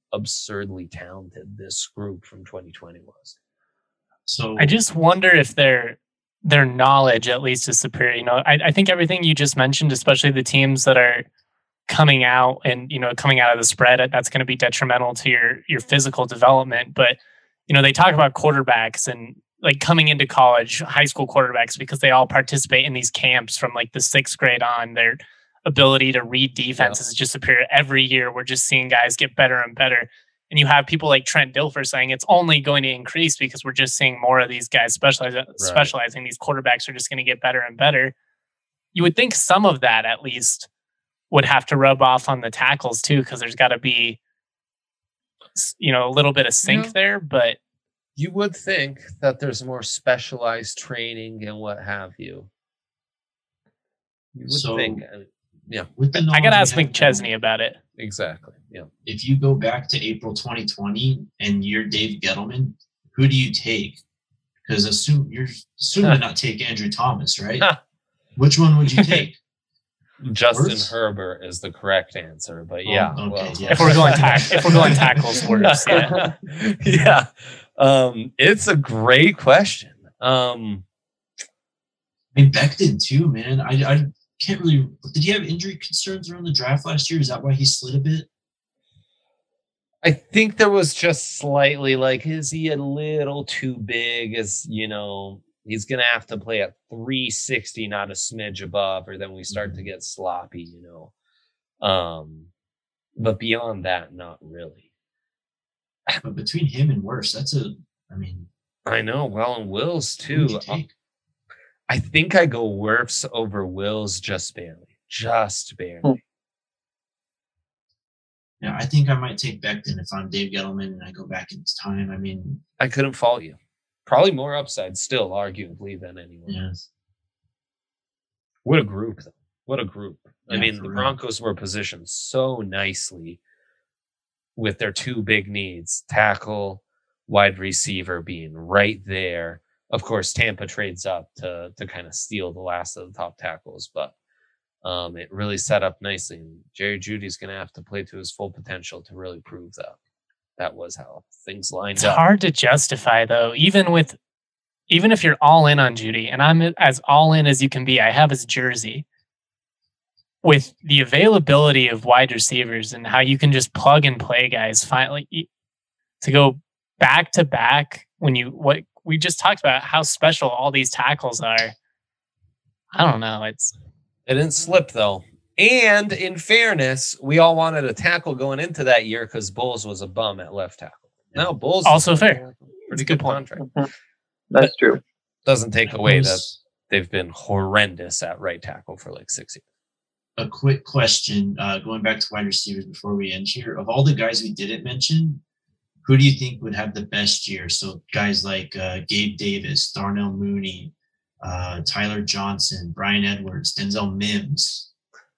C: absurdly talented this group from twenty twenty was.
D: So
B: I just wonder if their their knowledge at least is superior. You know, I, I think everything you just mentioned, especially the teams that are coming out and, you know, coming out of the spread, that's going to be detrimental to your your physical development. But, you know, they talk about quarterbacks and like coming into college, high school quarterbacks, because they all participate in these camps from like the sixth grade on. Their ability to read defenses yeah. is just superior. Every year, we're just seeing guys get better and better. And you have people like Trent Dilfer saying it's only going to increase because we're just seeing more of these guys specialize, right. specializing. These quarterbacks are just going to get better and better. You would think some of that at least would have to rub off on the tackles too, because there's got to be, you know, a little bit of sync yeah. there. But
C: you would think that there's more specialized training and what have you. You would
D: so,
C: think, yeah.
D: With the
B: I got to ask McChesney about it.
C: Exactly. Yeah.
D: If you go back to April twenty twenty and you're Dave Gettleman, who do you take? Because assume you're assuming to not take Andrew Thomas, right? Which one would you take?
C: Justin
D: Worse?
C: Herbert is the correct answer, but
D: oh,
C: yeah,
D: okay,
C: well,
D: yeah.
B: If we're going tack, if we're going tackles, worse. Yeah.
C: yeah. Um, it's a great question. Um,
D: and Becton too, man. I I can't really. Did he have injury concerns around the draft last year? Is that why he slid a bit?
C: I think there was just slightly like, is he a little too big? Is, you know, he's going to have to play at three sixty, not a smidge above, or then we start mm-hmm. to get sloppy, you know. Um, but beyond that, not really.
D: But between him and Wirfs, that's a, I mean.
C: I know. Well, and Wills too. I think I go Wirfs over Wills just barely. Just barely. Hmm.
D: Yeah, I think I might take Becton if I'm Dave Gettleman and I go back in time. I mean,
C: I couldn't fault you. Probably more upside still, arguably, than anyone
D: yeah.
C: else. What a group, though. What a group. Yeah, I mean, the
D: real.
C: Broncos were positioned so nicely with their two big needs, tackle, wide receiver being right there. Of course, Tampa trades up to to kind of steal the last of the top tackles, but um, it really set up nicely. And Jerry Jeudy's going to have to play to his full potential to really prove that that was how things lined
B: it's
C: up.
B: It's hard to justify, though, even with even if you're all in on Jeudy, and I'm as all in as you can be. I have his jersey. With the availability of wide receivers and how you can just plug and play guys, finally to go back to back when you what. We just talked about how special all these tackles are. I don't know. It's
C: it didn't slip though. And in fairness, we all wanted a tackle going into that year because Bowles was a bum at left tackle. Now Bowles
B: also fair.
C: Pretty good, good contract.
A: Mm-hmm. That's
C: but
A: true.
C: Doesn't take away that they've been horrendous at right tackle for like six years.
D: A quick question, uh, going back to wide receivers before we end here. Of all the guys we didn't mention, who do you think would have the best year? So guys like uh, Gabe Davis, Darnell Mooney, uh, Tyler Johnson, Brian Edwards, Denzel Mims.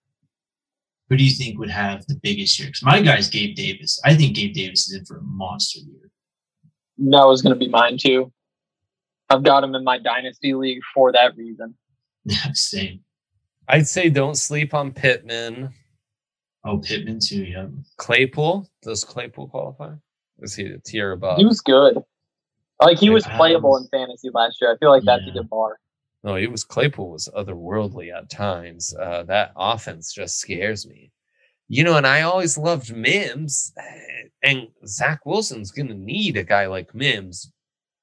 D: Who do you think would have the biggest year? Because my guy's Gabe Davis. I think Gabe Davis is in for a monster year.
A: That was going to be mine too. I've got him in my dynasty league for that reason.
D: Yeah, same.
C: I'd say don't sleep on Pittman.
D: Oh, Pittman too, yeah.
C: Claypool. Does Claypool qualify? Is he a tier above?
A: He was good. Like, he was playable in fantasy last year. I feel like that's yeah. a good bar.
C: No, he was Claypool was otherworldly at times. Uh, that offense just scares me. You know, and I always loved Mims. And Zach Wilson's going to need a guy like Mims.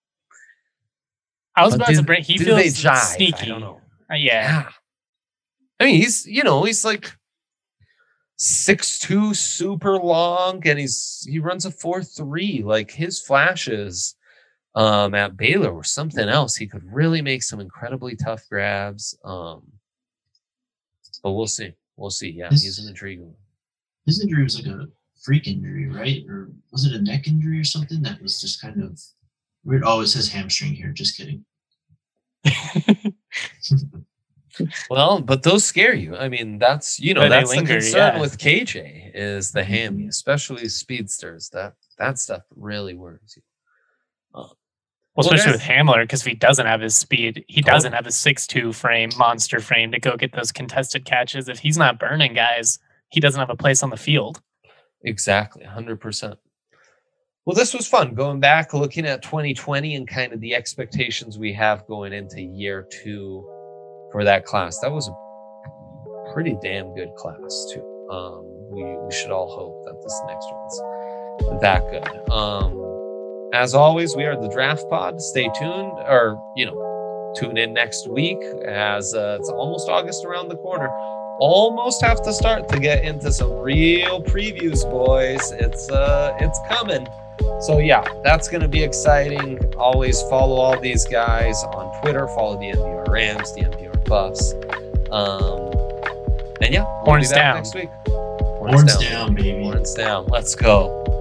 B: I was about to bring... He feels sneaky.
C: I don't know.
B: Uh, yeah.
C: yeah. I mean, he's, you know, he's like six two, super long, and he's he runs a four three. Like, his flashes um, at Baylor were something else. He could really make some incredibly tough grabs. Um, but we'll see. We'll see. Yeah, his, he's an intriguing one.
D: His injury was like a freak injury, right? Or was it a neck injury or something that was just kind of weird? Oh, it says hamstring here. Just kidding.
C: Well, but those scare you. I mean, that's, you know,
B: but
C: that's
B: linger,
C: the concern
B: yeah.
C: with K J is the hammy, especially speedsters. That that stuff really worries you.
B: Uh, well, especially with Hamler, because if he doesn't have his speed, he totally. doesn't have a six two frame, monster frame to go get those contested catches. If he's not burning guys, he doesn't have a place on the field.
C: Exactly, one hundred percent. Well, this was fun going back, looking at twenty twenty and kind of the expectations we have going into year two for that class. That was a pretty damn good class too. Um, we, we should all hope that this next one's that good. Um, as always, we are the Draft Pod. Stay tuned, or, you know, tune in next week as uh, it's almost August around the corner. Almost have to start to get into some real previews, boys. It's uh, it's coming. So yeah, that's going to be exciting. Always follow all these guys on Twitter. Follow the N V R Rams, the N V R Buffs. Um, and yeah, we'll
B: Horns
C: be back
B: down
C: next week.
D: Horns, Horns down, down, baby.
C: Horns down. Let's go.